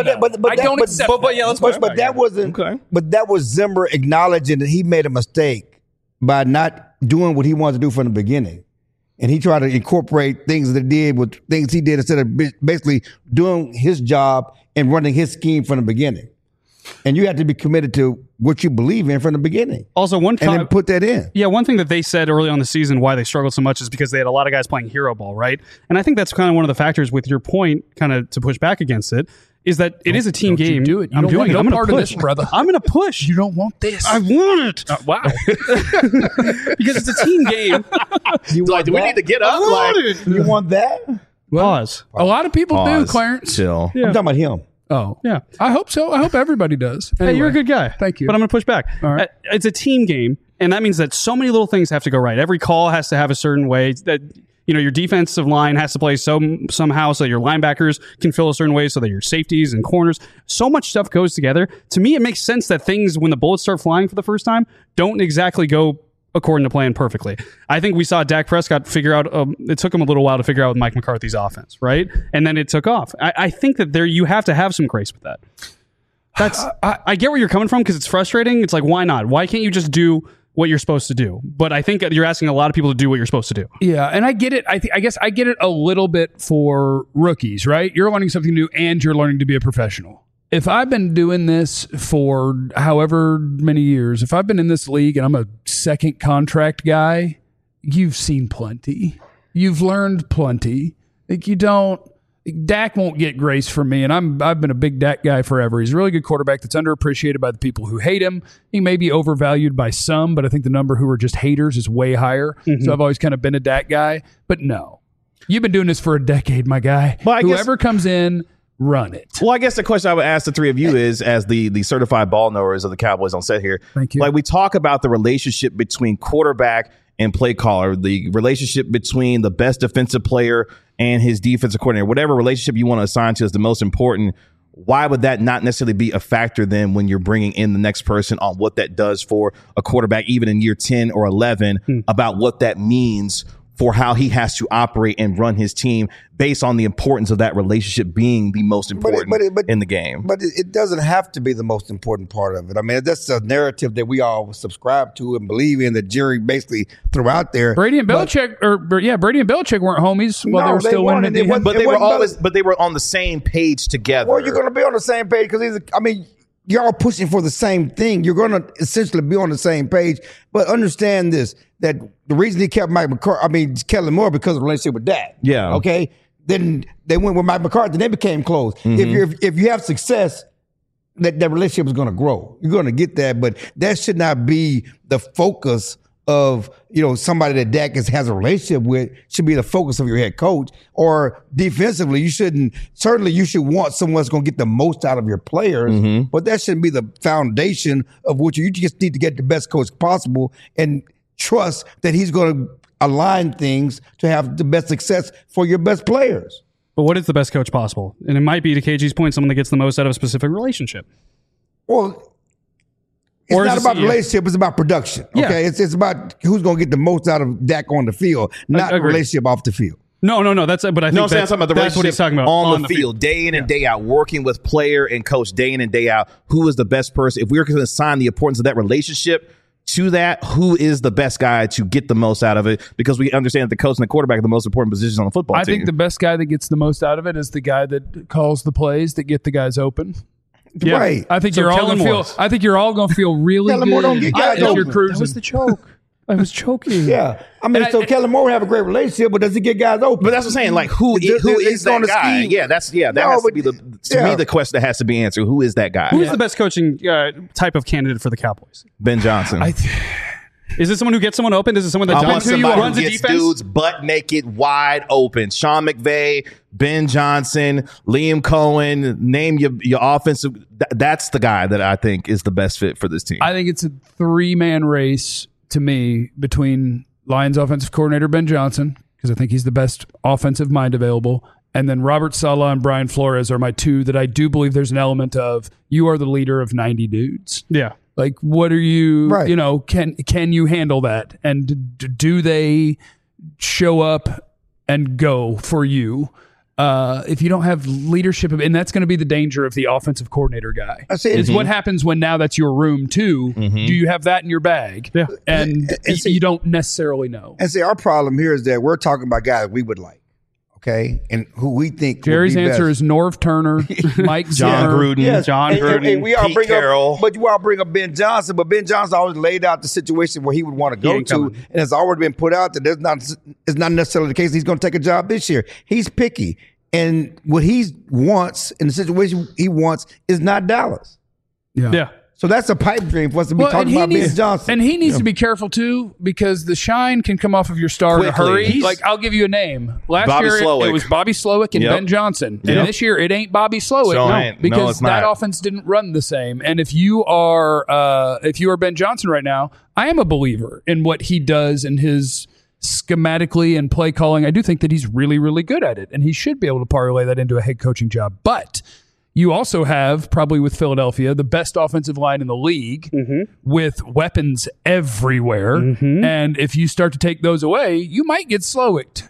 But that was Zimmer acknowledging that he made a mistake by not doing what he wanted to do from the beginning. And he tried to incorporate things that he did with things he did instead of basically doing his job and running his scheme from the beginning. And you have to be committed to what you believe in from the beginning. Also, and then put that in. Yeah, one thing that they said early on the season why they struggled so much is because they had a lot of guys playing hero ball, right? And I think that's kind of one of the factors with your point, kind of to push back against it, is that it is a team game. Do it. I'm doing it. I'm going to push, brother. I'm going to push. You don't want this. I want it. Wow. Because it's a team game. Do we need to get up? You want that? Pause. A lot of people do, Clarence. Chill. I'm talking about him. Oh. Yeah. I hope so. I hope everybody does. Anyway, hey, you're a good guy. Thank you. But I'm going to push back. All right. It's a team game, and that means that so many little things have to go right. Every call has to have a certain way that your defensive line has to play somehow so that your linebackers can fill a certain way, so that your safeties and corners, so much stuff goes together. To me, it makes sense that things, when the bullets start flying for the first time, don't exactly go according to plan perfectly. I think we saw Dak Prescott figure out, it took him a little while to figure out Mike McCarthy's offense, right? And then it took off. I think that you have to have some grace with that. I get where you're coming from, because it's frustrating. It's like, why not? Why can't you just do what you're supposed to do? But I think you're asking a lot of people to do what you're supposed to do. Yeah, and I get it. I guess I get it a little bit for rookies, right? You're learning something new and you're learning to be a professional. If I've been doing this for however many years, if I've been in this league and I'm a second contract guy, you've seen plenty. You've learned plenty. Like Dak won't get grace from me, and I've been a big Dak guy forever. He's a really good quarterback that's underappreciated by the people who hate him. He may be overvalued by some, but I think the number who are just haters is way higher. So I've always kind of been a Dak guy. But no, you've been doing this for a decade, my guy. Well, whoever comes in, run it. Well, I guess the question I would ask the three of you is, as the certified ball knowers of the Cowboys on set here, thank you. Like, we talk about the relationship between quarterback and play caller, the relationship between the best defensive player and his defensive coordinator, whatever relationship you want to assign to is the most important. Why would that not necessarily be a factor then when you're bringing in the next person on what that does for a quarterback, even in year 10 or 11, about what that means for how he has to operate and run his team based on the importance of that relationship being the most important in the game? But it doesn't have to be the most important part of it. I mean, that's a narrative that we all subscribe to and believe in, that Jerry basically threw out there. Brady and Belichick weren't homies while they were still winning. But they were on the same page together. Well, you're going to be on the same page because you're all pushing for the same thing. You're going to essentially be on the same page. But understand this, that the reason he kept Kellen Moore because of the relationship with Dak. Yeah. Okay. Then they went with Mike McCarthy. They became close. If you have success, that relationship is going to grow. You're going to get that, but that should not be the focus of, somebody that Dak has a relationship with. Should be the focus of your head coach. Or defensively, you should want someone that's going to get the most out of your players, but that shouldn't be the foundation of what you just need to get the best coach possible and trust that he's going to align things to have the best success for your best players. But what is the best coach possible? And it might be, to KG's point, someone that gets the most out of a specific relationship. Well, it's not about relationship, it's about production. Okay. Yeah. It's about who's going to get the most out of Dak on the field, not the relationship off the field. No. But I think that's what he's talking about on the field, day in and day out, working with player and coach day in and day out. Who is the best person? If we were going to assign the importance of that relationship to that, who is the best guy to get the most out of it? Because we understand that the coach and the quarterback are the most important positions on the football team. I think the best guy that gets the most out of it is the guy that calls the plays that get the guys open. Yeah. Right. I think you're all going to feel really Kellen Moore don't get guys open. That was the choke. I was choking. Yeah. Kellen Moore would have a great relationship, but does he get guys open? But that's what I'm saying. Like, who is that guy? Yeah, has to be the question that has to be answered. Who is that guy? Who is the best coaching type of candidate for the Cowboys? Ben Johnson. Is it someone who gets someone open? Is it someone that runs a defense? Dudes butt naked, wide open. Sean McVay, Ben Johnson, Liam Cohen. Name your offensive. That's the guy that I think is the best fit for this team. I think it's a 3-man race to me between Lions offensive coordinator Ben Johnson, because I think he's the best offensive mind available, and then Robert Saleh and Brian Flores are my two that I do believe there's an element of, you are the leader of 90 dudes. Yeah. Like, what are you, can you handle that? And do they show up and go for you? If you don't have leadership, and that's going to be the danger of the offensive coordinator guy, is what happens when now that's your room too. Do you have that in your bag? Yeah. And you don't necessarily know. And see, our problem here is that we're talking about guys we would like. Okay, and who we think Jerry's answer is Norv Turner, Mike John Zimmer, Gruden, John Gruden, and we all Pete Carroll. But you all bring up Ben Johnson, but Ben Johnson always laid out the situation where he would want to go to, and it's already been put out that it's not necessarily the case. He's going to take a job this year. He's picky, and what he wants in the situation he wants is not Dallas. Yeah. So that's a pipe dream for us to be talking about Ben Johnson. And he needs to be careful, too, because the shine can come off of your star in a hurry. I'll give you a name. Last year, it was Bobby Slowick and Ben Johnson. And this year, it ain't Bobby Slowick. Because that offense didn't run the same. And if you are Ben Johnson right now, I am a believer in what he does and his schematically and play calling. I do think that he's really, really good at it. And he should be able to parlay that into a head coaching job. But you also have, probably with Philadelphia, the best offensive line in the league with weapons everywhere. And if you start to take those away, you might get Slowicked.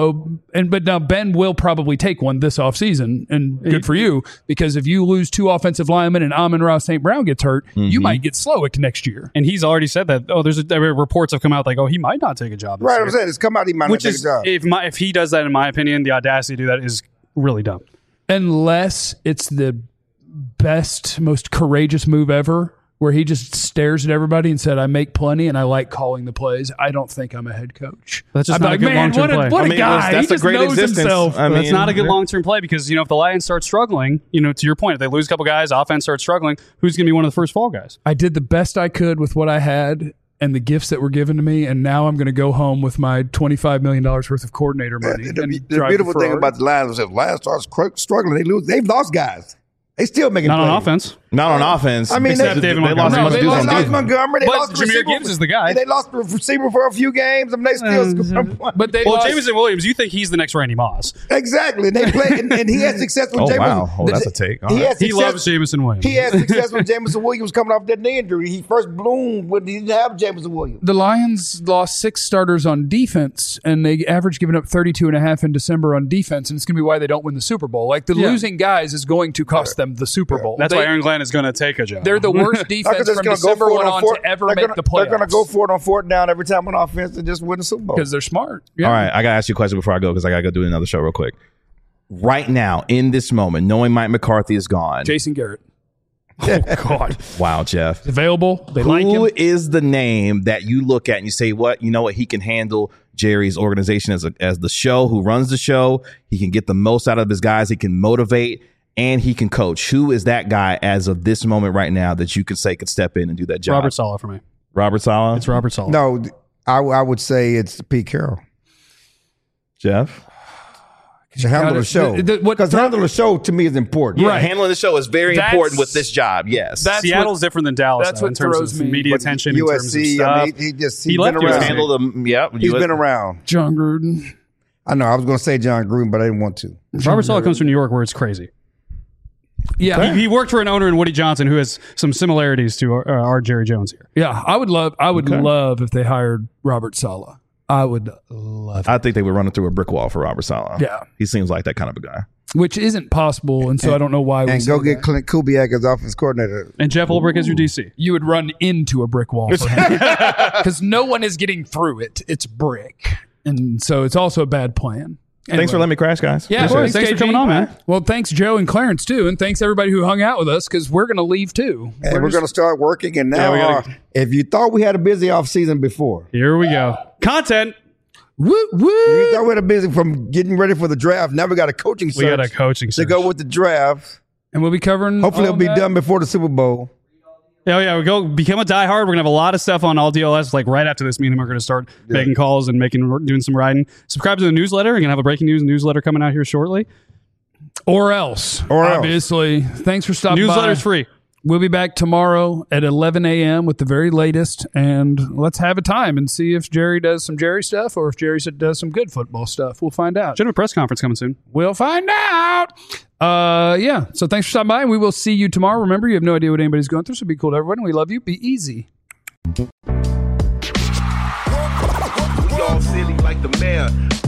But now Ben will probably take one this offseason, and good for you, because if you lose 2 offensive linemen and Amon-Ra St. Brown gets hurt, you might get Slowicked next year. And he's already said that. Reports have come out like, he might not take a job this year. I'm saying it's come out he might not take a job. If he does that, in my opinion, the audacity to do that is really dumb. Unless it's the best, most courageous move ever, where he just stares at everybody and said, I make plenty and I like calling the plays. I don't think I'm a head coach. That's just not a good long-term play. What a guy. That's he a great knows existence. himself. That's not a good long-term play because, if the Lions start struggling, to your point, if they lose a couple guys, offense starts struggling, who's going to be one of the first fall guys? I did the best I could with what I had and the gifts that were given to me, and now I'm going to go home with my $25 million worth of coordinator money. The beautiful thing about the Lions is if the Lions start struggling, they lose. They've lost guys. They still making not plays. on offense. Not on offense. I mean, Except David Montgomery. They lost Montgomery. They But lost the Jahmyr receiver. Gibbs is the guy. They lost the receiver for a few games. I mean, they still scored. But they Well, lost. Jameson Williams, you think he's the next Randy Moss? Exactly. They play, and he had success with Jameson. Wow. Oh, that's a take. All He, right. had He success, loves Jameson Williams. he had success with Jameson Williams coming off that knee injury. He first bloomed when he didn't have Jameson Williams. The Lions lost 6 starters on defense, and they averaged giving up 32.5 in December on defense, and it's going to be why they don't win the Super Bowl. Like, the losing guys is going to cost them the Super Bowl. That's why Aaron Glenn is going to take a job. They're the worst defense from December on to ever make the playoffs. They're going to go for it on 4th down every time on offense and just win the Super Bowl. Because they're smart. Yeah. All right, I got to ask you a question before I go because I got to go do another show real quick. Right now, in this moment, knowing Mike McCarthy is gone. Jason Garrett. Oh, God. Wow, Jeff. Available. They like him. Who is the name that you look at and you say, you know what, he can handle Jerry's organization as the show, who runs the show. He can get the most out of his guys. He can motivate. And he can coach. Who is that guy as of this moment right now that you could say could step in and do that job? Robert Saleh for me. Robert Saleh? It's Robert Saleh. No, I would say it's Pete Carroll. Jeff? To handle the show. Because handling the show to me is important. Yeah, handling the show is very important with this job, yes. Seattle's different than Dallas that's though, what in terms throws of me. media But attention, in terms of USC, stuff. I mean, he's He been left around. USC. Handle them, yeah. He's been around. John Gruden. I know. I was going to say John Gruden, but I didn't want to. Robert Saleh comes from New York where it's crazy. Yeah. He worked for an owner in Woody Johnson who has some similarities to our Jerry Jones here. Yeah. I would love if they hired Robert Saleh. I would love it. I think they would run it through a brick wall for Robert Saleh. Yeah. He seems like that kind of a guy. Which isn't possible, and so I don't know why. And go get Clint Kubiak as offense coordinator. And Jeff Ulbrich as your DC. You would run into a brick wall for him because no one is getting through it. It's brick, and so it's also a bad plan. Anyway. Thanks for letting me crash, guys. Yeah, thanks for coming on, man. Well, thanks Joe and Clarence too, and thanks everybody who hung out with us because we're going to leave too. And we're going to start working. And now, if you thought we had a busy off season before, here we go. Content. Woo woo! You thought we had a busy from getting ready for the draft. Now we got a coaching search. We got a coaching search to go with the draft, and we'll be covering. Hopefully, it'll be done before the Super Bowl. Oh yeah, we go become a diehard. We're gonna have a lot of stuff on all DLS. Like right after this meeting, we're gonna start making calls and doing some writing. Subscribe to the newsletter. We're gonna have a breaking news newsletter coming out here shortly. Or else, obviously. Thanks for stopping by. Newsletter's free. We'll be back tomorrow at 11 a.m. with the very latest, and let's have a time and see if Jerry does some Jerry stuff or if Jerry does some good football stuff. We'll find out. Should have a press conference coming soon. We'll find out. Yeah. So thanks for stopping by, and we will see you tomorrow. Remember, you have no idea what anybody's going through, so be cool to everyone. We love you. Be easy. We all silly like the mayor.